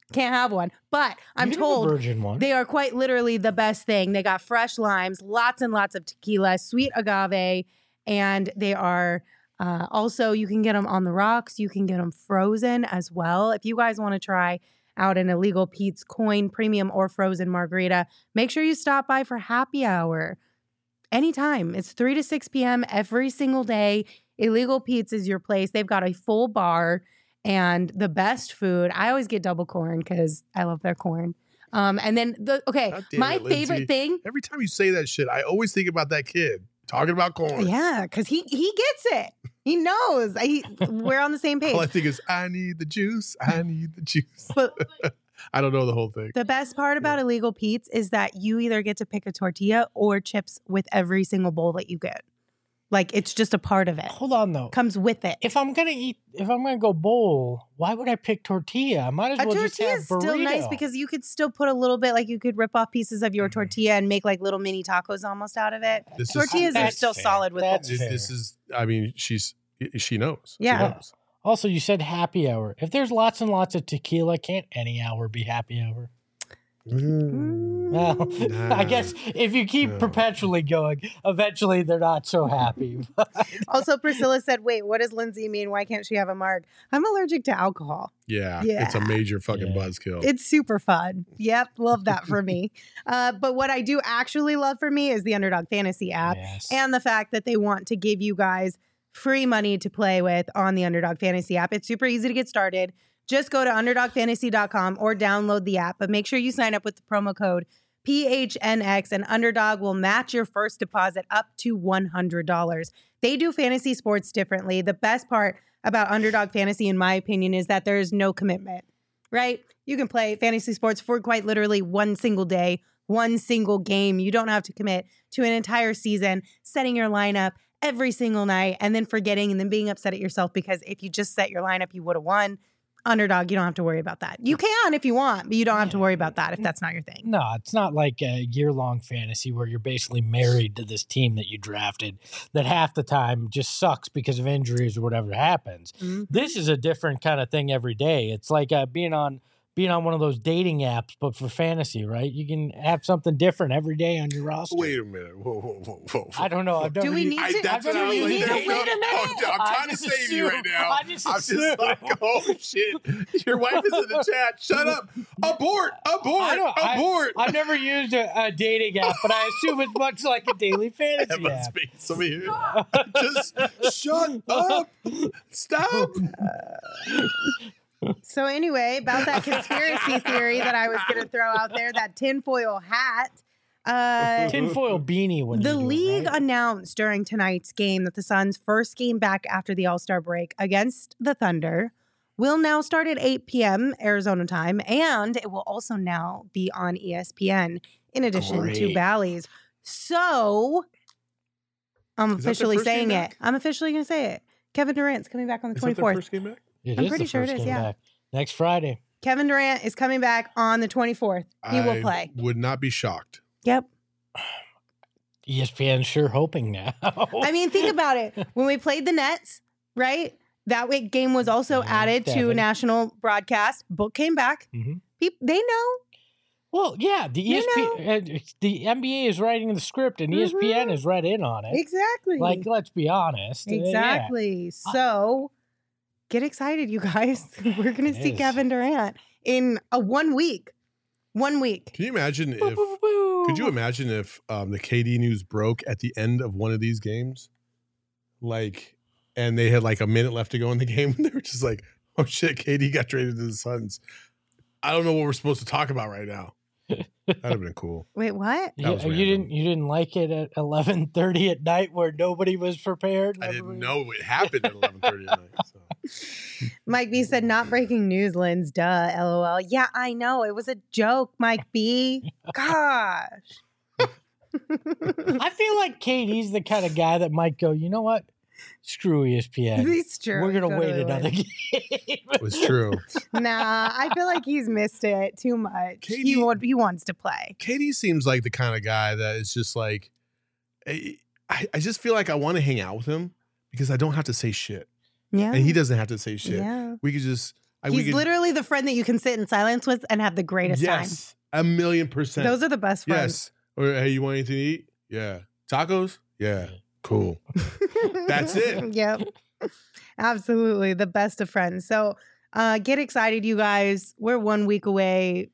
[SPEAKER 1] Can't have one. But I'm
[SPEAKER 2] You can have a
[SPEAKER 1] told
[SPEAKER 2] virgin one.
[SPEAKER 1] they are quite literally the best thing. They got fresh limes, lots and lots of tequila, sweet agave, and they are also, you can get them on the rocks. You can get them frozen as well. If you guys want to try out an Illegal Pete's Coin Premium or Frozen Margarita, make sure you stop by for happy hour anytime. It's 3 to 6 p.m. every single day. Illegal Pete's is your place. They've got a full bar and the best food. I always get double corn because I love their corn. And then
[SPEAKER 3] God damn
[SPEAKER 1] my
[SPEAKER 3] it, Lindsay.
[SPEAKER 1] favorite thing.
[SPEAKER 3] Every time you say that shit, I always think about that kid talking about corn.
[SPEAKER 1] Yeah, because he gets it. He knows. We're on the same page.
[SPEAKER 3] All I think is, I need the juice. I need the juice.
[SPEAKER 1] But
[SPEAKER 3] I don't know the whole thing.
[SPEAKER 1] the best part about Illegal Pete's is that you either get to pick a tortilla or chips with every single bowl that you get. Like, it's just a part of it.
[SPEAKER 2] Hold on though.
[SPEAKER 1] Comes with it.
[SPEAKER 2] If I'm gonna go bowl, why would I pick tortilla? I might as
[SPEAKER 1] A
[SPEAKER 2] well just
[SPEAKER 1] tortilla
[SPEAKER 2] have
[SPEAKER 1] is still nice
[SPEAKER 2] burrito.
[SPEAKER 1] because you could still put a little bit, like you could rip off pieces of your tortilla and make like little mini tacos almost out of it.
[SPEAKER 3] This is-
[SPEAKER 1] Tortillas are
[SPEAKER 2] That's
[SPEAKER 1] still
[SPEAKER 2] fair.
[SPEAKER 1] solid with
[SPEAKER 2] That's
[SPEAKER 1] it.
[SPEAKER 3] This is, I mean, she knows.
[SPEAKER 1] Yeah.
[SPEAKER 3] She knows.
[SPEAKER 2] Also, you said happy hour. If there's lots and lots of tequila, can't any hour be happy hour? Well,
[SPEAKER 3] Nah.
[SPEAKER 2] I guess if you keep
[SPEAKER 3] No.
[SPEAKER 2] perpetually going, eventually they're not so happy.
[SPEAKER 1] Also, Priscilla said, wait, what does Lindsay mean? Why can't she have a marg? I'm allergic to alcohol.
[SPEAKER 3] Yeah.
[SPEAKER 1] Yeah.
[SPEAKER 3] It's a major fucking
[SPEAKER 2] Yeah.
[SPEAKER 3] buzzkill.
[SPEAKER 1] It's super fun. Yep, love that for me. But what I do actually love for me is the Underdog Fantasy app
[SPEAKER 2] Yes.
[SPEAKER 1] and the fact that they want to give you guys free money to play with on the Underdog Fantasy app. It's super easy to get started. Just go to underdogfantasy.com or download the app, but make sure you sign up with the promo code PHNX and Underdog will match your first deposit up to $100. They do fantasy sports differently. The best part about Underdog Fantasy, in my opinion, is that there is no commitment, right? You can play fantasy sports for quite literally one single day, one single game. You don't have to commit to an entire season, setting your lineup every single night and then forgetting and then being upset at yourself because if you just set your lineup, you would have won. Underdog, you don't have to worry about that. You can if you want, but you don't have to worry about that if that's not your thing.
[SPEAKER 2] No, it's not like a year-long fantasy where you're basically married to this team that you drafted that half the time just sucks because of injuries or whatever happens.
[SPEAKER 1] Mhm.
[SPEAKER 2] This is a different kind of thing every day. It's like being on one of those dating apps, but for fantasy, right? You can have something different every day on your roster.
[SPEAKER 3] Wait a minute. Whoa.
[SPEAKER 2] I don't know. I've
[SPEAKER 1] Do
[SPEAKER 2] never
[SPEAKER 1] we
[SPEAKER 2] used-
[SPEAKER 1] need to?
[SPEAKER 3] That's
[SPEAKER 1] do
[SPEAKER 3] what I
[SPEAKER 1] we
[SPEAKER 3] was
[SPEAKER 1] need
[SPEAKER 3] like,
[SPEAKER 1] to
[SPEAKER 3] there you
[SPEAKER 1] wait
[SPEAKER 3] go.
[SPEAKER 1] a minute?
[SPEAKER 3] I'm
[SPEAKER 2] I
[SPEAKER 3] trying to
[SPEAKER 2] just
[SPEAKER 3] save you right
[SPEAKER 2] assumed-
[SPEAKER 3] now.
[SPEAKER 2] I
[SPEAKER 3] I'm
[SPEAKER 2] just
[SPEAKER 3] just
[SPEAKER 2] assumed.
[SPEAKER 3] like, oh shit. Your wife is in the chat. Shut up. Abort. Abort.
[SPEAKER 2] I've never used a dating app, but I assume it's much like a daily fantasy
[SPEAKER 3] Emma
[SPEAKER 2] app.
[SPEAKER 3] speaks. Somebody here. Just shut up. Stop.
[SPEAKER 1] So anyway, about that conspiracy theory that I was going to throw out there, that tinfoil hat.
[SPEAKER 2] Tinfoil beanie. When
[SPEAKER 1] The
[SPEAKER 2] you do it,
[SPEAKER 1] league
[SPEAKER 2] right?
[SPEAKER 1] announced during tonight's game that the Suns' first game back after the All-Star break against the Thunder will now start at 8 p.m. Arizona time, and it will also now be on ESPN in addition to
[SPEAKER 3] Great.
[SPEAKER 1] Bally's. So I'm
[SPEAKER 3] Is that their
[SPEAKER 1] officially
[SPEAKER 3] first game
[SPEAKER 1] saying it.
[SPEAKER 3] back?
[SPEAKER 1] I'm officially going to say it. Kevin Durant's coming back on the
[SPEAKER 3] Is that their
[SPEAKER 1] 24th.
[SPEAKER 3] first game back?
[SPEAKER 2] It
[SPEAKER 1] I'm
[SPEAKER 2] is
[SPEAKER 1] pretty
[SPEAKER 2] the
[SPEAKER 1] sure it
[SPEAKER 2] first
[SPEAKER 1] is,
[SPEAKER 2] game
[SPEAKER 1] yeah.
[SPEAKER 2] back. Next Friday.
[SPEAKER 1] Kevin Durant is coming back on the 24th. He will
[SPEAKER 3] I
[SPEAKER 1] play.
[SPEAKER 3] would not be shocked.
[SPEAKER 1] Yep.
[SPEAKER 2] ESPN's sure hoping now.
[SPEAKER 1] I mean, think about it. When we played the Nets, right? That week game was also
[SPEAKER 2] Yeah,
[SPEAKER 1] added to
[SPEAKER 2] Devin.
[SPEAKER 1] national broadcast. Book came back.
[SPEAKER 2] Mhm.
[SPEAKER 1] They know.
[SPEAKER 2] Well, yeah, the
[SPEAKER 1] You
[SPEAKER 2] ESPN, the NBA is writing the script, and ESPN is right in on it.
[SPEAKER 1] Exactly.
[SPEAKER 2] Like, let's be honest. Yeah.
[SPEAKER 1] exactly. So get excited, you guys. We're going to
[SPEAKER 2] It
[SPEAKER 1] see
[SPEAKER 2] is.
[SPEAKER 1] Kevin Durant in a 1 week. 1 week.
[SPEAKER 3] Can you imagine if
[SPEAKER 2] Woo.
[SPEAKER 3] could you imagine if the KD news broke at the end of one of these games? Like, and they had like a minute left to go in the game, and they were just like, oh shit, KD got traded to the Suns. I don't know what we're supposed to talk about right now. That'd have been cool.
[SPEAKER 1] Wait, what?
[SPEAKER 2] Yeah,
[SPEAKER 3] was
[SPEAKER 2] you
[SPEAKER 3] random.
[SPEAKER 2] didn't like it at 11:30 at night where nobody was prepared.
[SPEAKER 3] I didn't know it happened at 11:30 at night. So.
[SPEAKER 1] Mike B said, not breaking news, Linz. Duh. LOL. Yeah, I know. It was a joke, Mike B. Gosh.
[SPEAKER 2] I feel like KD's the kind of guy that might go, you know what? Screw ESPN.
[SPEAKER 1] It's true.
[SPEAKER 2] We're gonna
[SPEAKER 1] Totally
[SPEAKER 2] wait
[SPEAKER 1] would.
[SPEAKER 2] another game.
[SPEAKER 3] It was true.
[SPEAKER 1] Nah, I feel like he's missed it too much. He wants to play.
[SPEAKER 3] KD seems like the kind of guy that is just like, I just feel like I want to hang out with him because I don't have to say shit.
[SPEAKER 1] Yeah.
[SPEAKER 3] And he doesn't have to say shit.
[SPEAKER 1] Yeah.
[SPEAKER 3] We could just
[SPEAKER 1] He's literally the friend that you can sit in silence with and have the greatest time.
[SPEAKER 3] Yes, 1,000,000%.
[SPEAKER 1] Those are the best friends.
[SPEAKER 3] Yes. Or hey, you want anything to eat? Yeah. Tacos? Yeah. Cool. That's it.
[SPEAKER 1] Yep. Absolutely. The best of friends. So get excited, you guys. We're 1 week away,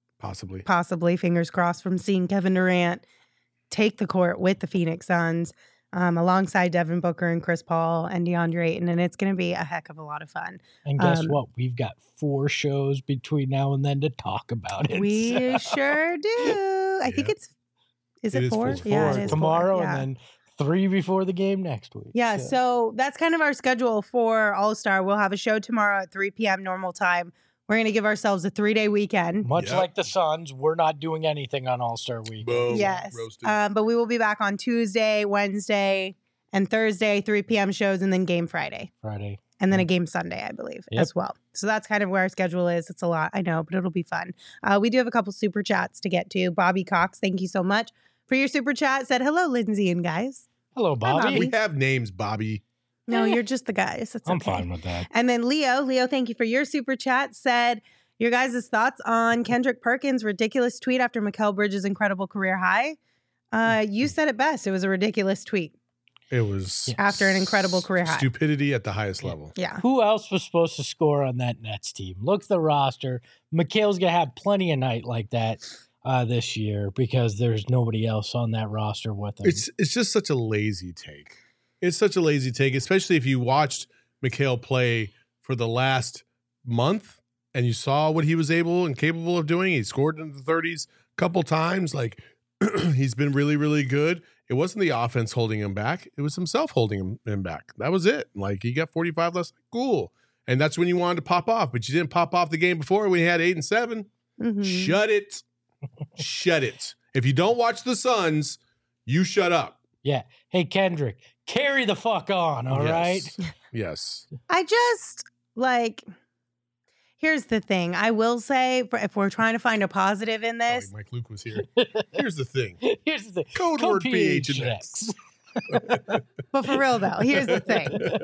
[SPEAKER 1] possibly, fingers crossed, from seeing Kevin Durant take the court with the Phoenix Suns alongside Devin Booker and Chris Paul and DeAndre Ayton. And it's going to be a heck of a lot of fun.
[SPEAKER 2] And guess what? We've got 4 shows between now and then to talk about it.
[SPEAKER 1] We sure do. I think is it 4? Yeah, it is
[SPEAKER 2] tomorrow
[SPEAKER 1] 4. Yeah.
[SPEAKER 2] and then 3 before the game next week.
[SPEAKER 1] Yeah, so that's kind of our schedule for All-Star. We'll have a show tomorrow at 3 p.m. normal time. We're going to give ourselves a 3-day weekend.
[SPEAKER 2] Much like the Suns, we're not doing anything on All-Star week.
[SPEAKER 3] Boom.
[SPEAKER 1] Yes. But we will be back on Tuesday, Wednesday, and Thursday, 3 p.m. shows, and then game Friday. And then a game Sunday, I believe, as well. So that's kind of where our schedule is. It's a lot, I know, but it'll be fun. We do have a couple super chats to get to. Bobby Cox, thank you so much for your super chat. Said, hello, Lindsay and guys.
[SPEAKER 2] Hello, Bobby.
[SPEAKER 1] Bobby.
[SPEAKER 3] We have names, Bobby.
[SPEAKER 1] No, you're just the guys. It's
[SPEAKER 2] I'm
[SPEAKER 1] okay.
[SPEAKER 2] fine with that.
[SPEAKER 1] And then Leo, thank you for your super chat. Said, your guys' thoughts on Kendrick Perkins' ridiculous tweet after Mikal Bridges' incredible career high. You said it best. It was a ridiculous tweet.
[SPEAKER 3] It was
[SPEAKER 1] after an incredible career high.
[SPEAKER 3] Stupidity at the highest level.
[SPEAKER 1] Yeah.
[SPEAKER 2] Who else was supposed to score on that Nets team? Look at the roster. Mikal's going to have plenty of night like that this year because there's nobody else on that roster with him.
[SPEAKER 3] It's just such a lazy take. It's such a lazy take, especially if you watched Mikal play for the last month and you saw what he was able and capable of doing. He scored in the 30s a couple times. Like, he's been really, really good. It wasn't the offense holding him back. It was himself holding him back. That was it. Like, he got 45 less. Cool. And that's when you wanted to pop off, but you didn't pop off the game before when you had 8 and 7.
[SPEAKER 1] Mm-hmm.
[SPEAKER 3] Shut it. Shut it. If you don't watch the Suns, you shut up.
[SPEAKER 2] Yeah. Hey, Kendrick, carry the fuck on, all right?
[SPEAKER 3] Yes.
[SPEAKER 1] I just, here's the thing. I will say, if we're trying to find a positive in this.
[SPEAKER 3] Mike Luke was here. Here's the thing.
[SPEAKER 2] Here's the thing.
[SPEAKER 3] Code word PHNX.
[SPEAKER 1] But for real, though, here's the thing.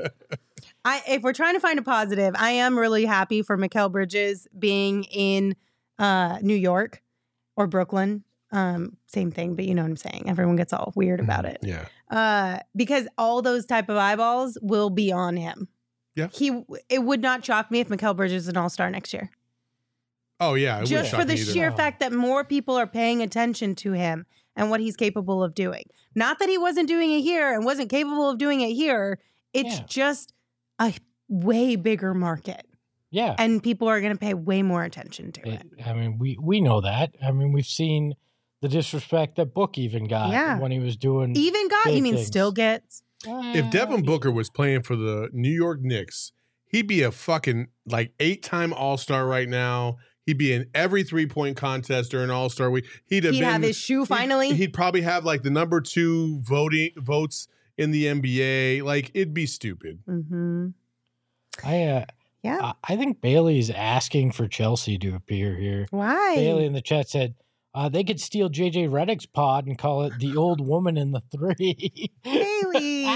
[SPEAKER 1] If we're trying to find a positive, I am really happy for Mikal Bridges being in New York or Brooklyn. Same thing, but you know what I'm saying. Everyone gets all weird about it.
[SPEAKER 3] Yeah.
[SPEAKER 1] Because all those type of eyeballs will be on him.
[SPEAKER 3] Yeah.
[SPEAKER 1] It would not shock me if Mikal Bridges is an all-star next year.
[SPEAKER 3] Oh, yeah.
[SPEAKER 1] Just for the sheer fact that more people are paying attention to him and what he's capable of doing. Not that he wasn't doing it here and wasn't capable of doing it here. It's just a way bigger market.
[SPEAKER 2] Yeah.
[SPEAKER 1] And people are going to pay way more attention to it.
[SPEAKER 2] I mean, we know that. I mean, we've seen the disrespect that Book even got when he was doing.
[SPEAKER 1] Even got? You mean still gets?
[SPEAKER 3] If Devin Booker was playing for the New York Knicks, he'd be a fucking 8-time All-Star right now. He'd be in every 3-point contest during All-Star week. He'd have his shoe finally. He'd probably have the number 2 votes in the NBA. It'd be stupid.
[SPEAKER 1] Mm-hmm.
[SPEAKER 2] I think Bailey's asking for Chelsea to appear here.
[SPEAKER 1] Why?
[SPEAKER 2] Bailey in the chat said they could steal JJ Redick's pod and call it the old woman in the 3.
[SPEAKER 1] Bailey,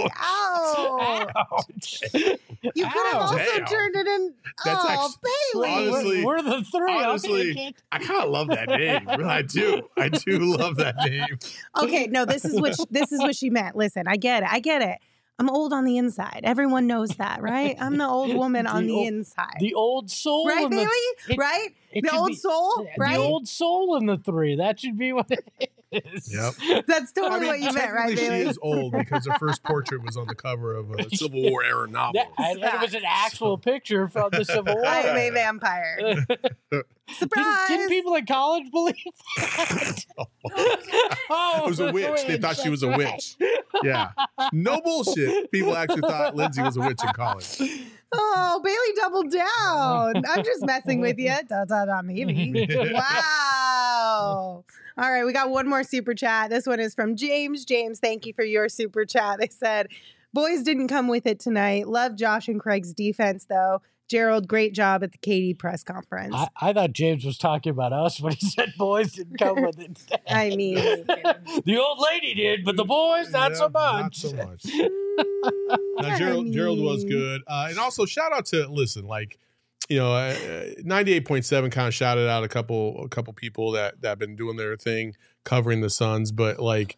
[SPEAKER 1] ouch! You could have also turned it in. That's Bailey,
[SPEAKER 3] honestly,
[SPEAKER 2] we're the 3.
[SPEAKER 3] Honestly, I kind of love that name. I do love that name.
[SPEAKER 1] Okay, no, this is what she meant. Listen, I get it. I'm old on the inside. Everyone knows that, right? I'm the old woman on the inside.
[SPEAKER 2] The old soul.
[SPEAKER 1] Right, Bailey? Right? The old soul, right?
[SPEAKER 2] The old soul in the 3. That should be what it is.
[SPEAKER 3] Yep.
[SPEAKER 1] That's totally what you meant, right, Bailey?
[SPEAKER 3] She is old because her first portrait was on the cover of a Civil War era novel.
[SPEAKER 2] And it was an actual picture from the Civil War.
[SPEAKER 1] I am a vampire. Surprise!
[SPEAKER 2] Didn't people in college believe that?
[SPEAKER 3] It was a witch. They thought she was a witch. Yeah. No bullshit. People actually thought Lindsay was a witch in college.
[SPEAKER 1] Oh, Bailey doubled down. I'm just messing with you. Maybe. Wow. All right, we got one more super chat. This one is from James. James, thank you for your super chat. They said, boys didn't come with it tonight. Love Josh and Craig's defense, though. Gerald, great job at the KD press conference.
[SPEAKER 2] I thought James was talking about us when he said boys didn't come with it.
[SPEAKER 1] I mean,
[SPEAKER 2] the old lady did, but the boys, not so much.
[SPEAKER 3] Not so much. Now, Gerald was good. And also, shout out to, 98.7 kind of shouted out a couple people that have been doing their thing covering the Suns, but like,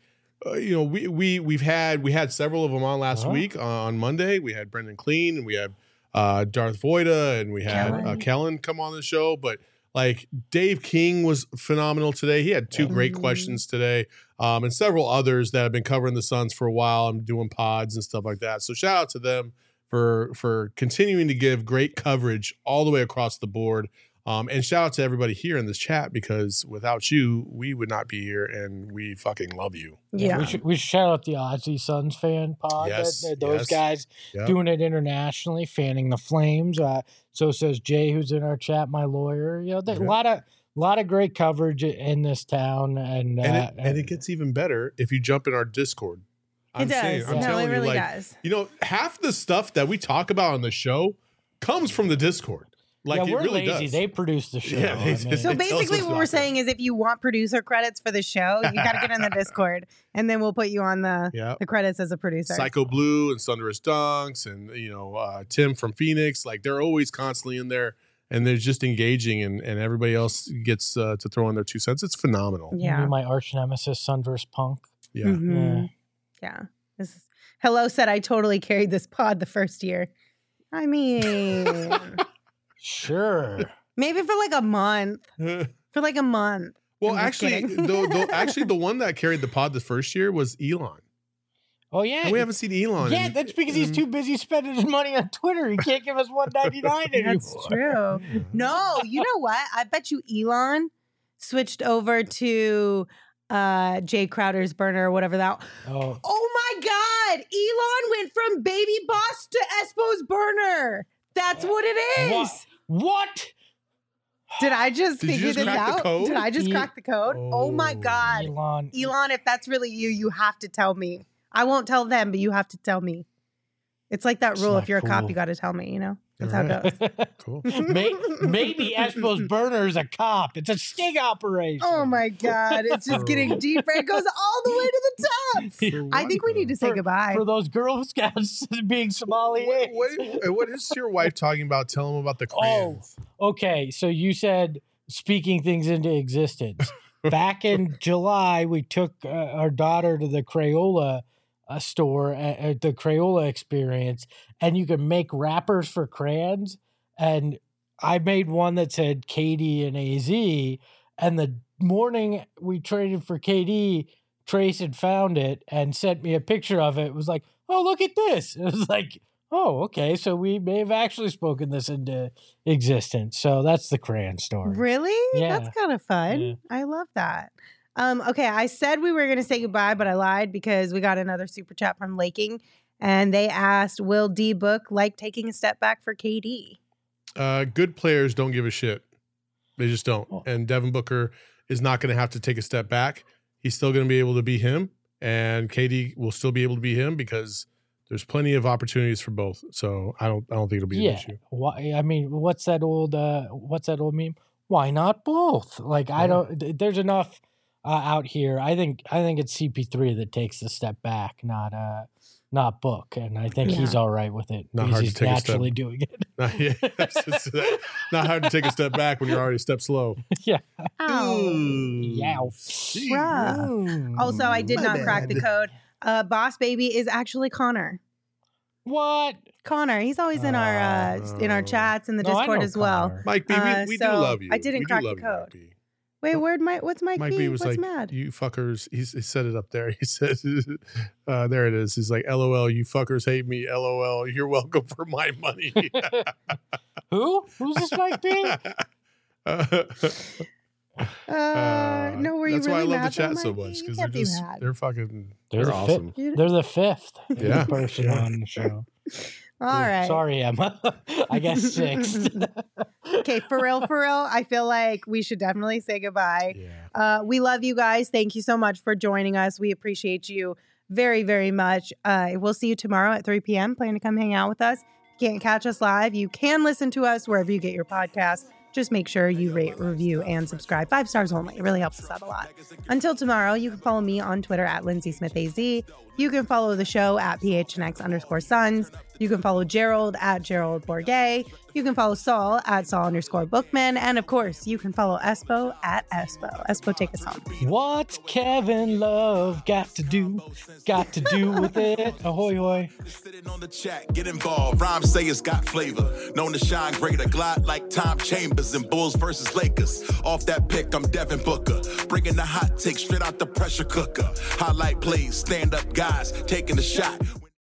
[SPEAKER 3] we had several of them on last week on Monday. We had Brendan Clean and we had Darth Voida and we had Kellen come on the show, but like Dave King was phenomenal today. He had two great questions today, and several others that have been covering the Suns for a while and doing pods and stuff like that. So shout out to them for continuing to give great coverage all the way across the board. And shout out to everybody here in this chat, because without you, we would not be here, and we fucking love you.
[SPEAKER 1] Yeah.
[SPEAKER 2] We should shout out the Aussie Suns fan pod.
[SPEAKER 3] Yes,
[SPEAKER 2] Those guys doing it internationally, fanning the Flames. So says Jay, who's in our chat, my lawyer. A lot of great coverage in this town, and
[SPEAKER 3] it gets even better if you jump in our Discord.
[SPEAKER 1] I'm telling you, does.
[SPEAKER 3] Half the stuff that we talk about on the show comes from the Discord. Like,
[SPEAKER 2] we're
[SPEAKER 3] it really
[SPEAKER 2] lazy.
[SPEAKER 3] does.
[SPEAKER 2] They produce the show.
[SPEAKER 3] Yeah,
[SPEAKER 1] So basically what we're saying is if you want producer credits for the show, you got to get in the Discord, and then we'll put you on the credits as a producer.
[SPEAKER 3] Psycho Blue and Thunderous Dunks and, Tim from Phoenix. Like, they're always constantly in there, and they're just engaging, and everybody else gets to throw in their 2 cents. It's phenomenal.
[SPEAKER 2] Yeah. My arch nemesis, Thunderous Punk.
[SPEAKER 3] Yeah.
[SPEAKER 1] Mm-hmm. Yeah. Hello said I totally carried this pod the first year. I mean...
[SPEAKER 2] Sure.
[SPEAKER 1] Maybe for like a month.
[SPEAKER 3] Well, actually, the one that carried the pod the first year was Elon.
[SPEAKER 2] Oh yeah,
[SPEAKER 3] and we haven't seen Elon.
[SPEAKER 2] Yeah, that's because he's too busy spending his money on Twitter. He can't give us $1.99 anymore.
[SPEAKER 1] That's true. No, you know what? I bet you Elon switched over to Jay Crowder's burner or whatever that. Oh my God! Elon went from Baby Boss to Espo's burner. That's what it is.
[SPEAKER 2] What?
[SPEAKER 1] Did I just figure this out? Did I just crack the code? Oh my God.
[SPEAKER 2] Elon,
[SPEAKER 1] if that's really you, you have to tell me. I won't tell them, but you have to tell me. It's like that rule. If you're a cop, you got to tell me, That's how it goes.
[SPEAKER 3] Cool.
[SPEAKER 2] Maybe Espo's burner is a cop. It's a sting operation.
[SPEAKER 1] Oh my God. It's just getting deeper. It goes all the way to the top. I think we need to say goodbye.
[SPEAKER 2] For those Girl Scouts being sommeliers.
[SPEAKER 3] What is your wife talking about? Tell them about the crayons.
[SPEAKER 2] Oh, okay. So you said speaking things into existence. Back in July, we took our daughter to the Crayola store at the Crayola experience, and you can make wrappers for crayons. And I made one that said KD and AZ. And the morning we traded for KD, Trace had found it and sent me a picture of it. It was like, oh, look at this. It was like, oh, okay. So we may have actually spoken this into existence. So that's the crayon story.
[SPEAKER 1] Really?
[SPEAKER 2] Yeah.
[SPEAKER 1] That's kind of fun.
[SPEAKER 2] Yeah.
[SPEAKER 1] I love that. Okay, I said we were going to say goodbye, but I lied because we got another super chat from Laking, and they asked, will D Book like taking a step back for KD?
[SPEAKER 3] Good players don't give a shit. They just don't. And Devin Booker is not going to have to take a step back. He's still going to be able to be him, and KD will still be able to be him because there's plenty of opportunities for both. So I don't think it'll be an issue.
[SPEAKER 2] Why? I mean, what's that old meme? Why not both? Like, I don't. There's enough out here. I think it's CP3 that takes the step back, not Book, and I think he's all right with it.
[SPEAKER 3] Not hard to take
[SPEAKER 2] naturally
[SPEAKER 3] a step.
[SPEAKER 2] doing it.
[SPEAKER 3] Not hard to take a step back when you're already a step slow.
[SPEAKER 2] Yeah.
[SPEAKER 1] Ow.
[SPEAKER 2] Yow.
[SPEAKER 1] Also, I did not crack the code. Boss Baby is actually Connor.
[SPEAKER 2] What?
[SPEAKER 1] Connor, he's always in our chats in the Discord as well.
[SPEAKER 2] Connor.
[SPEAKER 3] Mike B, we do love you.
[SPEAKER 1] I didn't crack the code. Wait, what's Mike B?
[SPEAKER 3] Was
[SPEAKER 1] what's
[SPEAKER 3] like,
[SPEAKER 1] mad?
[SPEAKER 3] You fuckers. He said it up there. He said, there it is. He's like, LOL, you fuckers hate me. LOL, you're welcome for my money.
[SPEAKER 2] Who? Who's this Mike B?
[SPEAKER 1] No, were you
[SPEAKER 3] that's
[SPEAKER 1] really
[SPEAKER 3] why I love the
[SPEAKER 1] mad
[SPEAKER 3] chat
[SPEAKER 1] though,
[SPEAKER 3] so
[SPEAKER 1] Mikey?
[SPEAKER 3] much
[SPEAKER 1] You
[SPEAKER 3] because
[SPEAKER 1] can't be mad.
[SPEAKER 3] they're awesome.
[SPEAKER 2] They're the fifth person
[SPEAKER 3] Yeah.
[SPEAKER 2] on the show.
[SPEAKER 1] All right.
[SPEAKER 2] Sorry, Emma. I guess sixth.
[SPEAKER 1] Okay, for real, I feel like we should definitely say goodbye.
[SPEAKER 3] Yeah.
[SPEAKER 1] We love you guys. Thank you so much for joining us. We appreciate you very, very much. We'll see you tomorrow at 3 p.m. Plan to come hang out with us. If you can't catch us live, you can listen to us wherever you get your podcasts. just make sure you rate, review, and subscribe. 5 stars only. It really helps us out a lot. Until tomorrow, you can follow me on Twitter at LindsaySmithAZ. You can follow the show at PHNX_Suns. You can follow Gerald at Gerald Bourget. You can follow Saul at Saul_Bookman. And of course, you can follow Espo at Espo. Espo, take us home.
[SPEAKER 2] What's Kevin Love got to do with it? Ahoy, hoy.
[SPEAKER 7] Sitting on the chat, get involved. Rhymes say it's got flavor. Known to shine greater, glide like Tom Chambers in Bulls versus Lakers. Off that pick, I'm Devin Booker. Bringing the hot take straight out the pressure cooker. Highlight plays, stand up guys, taking the shot.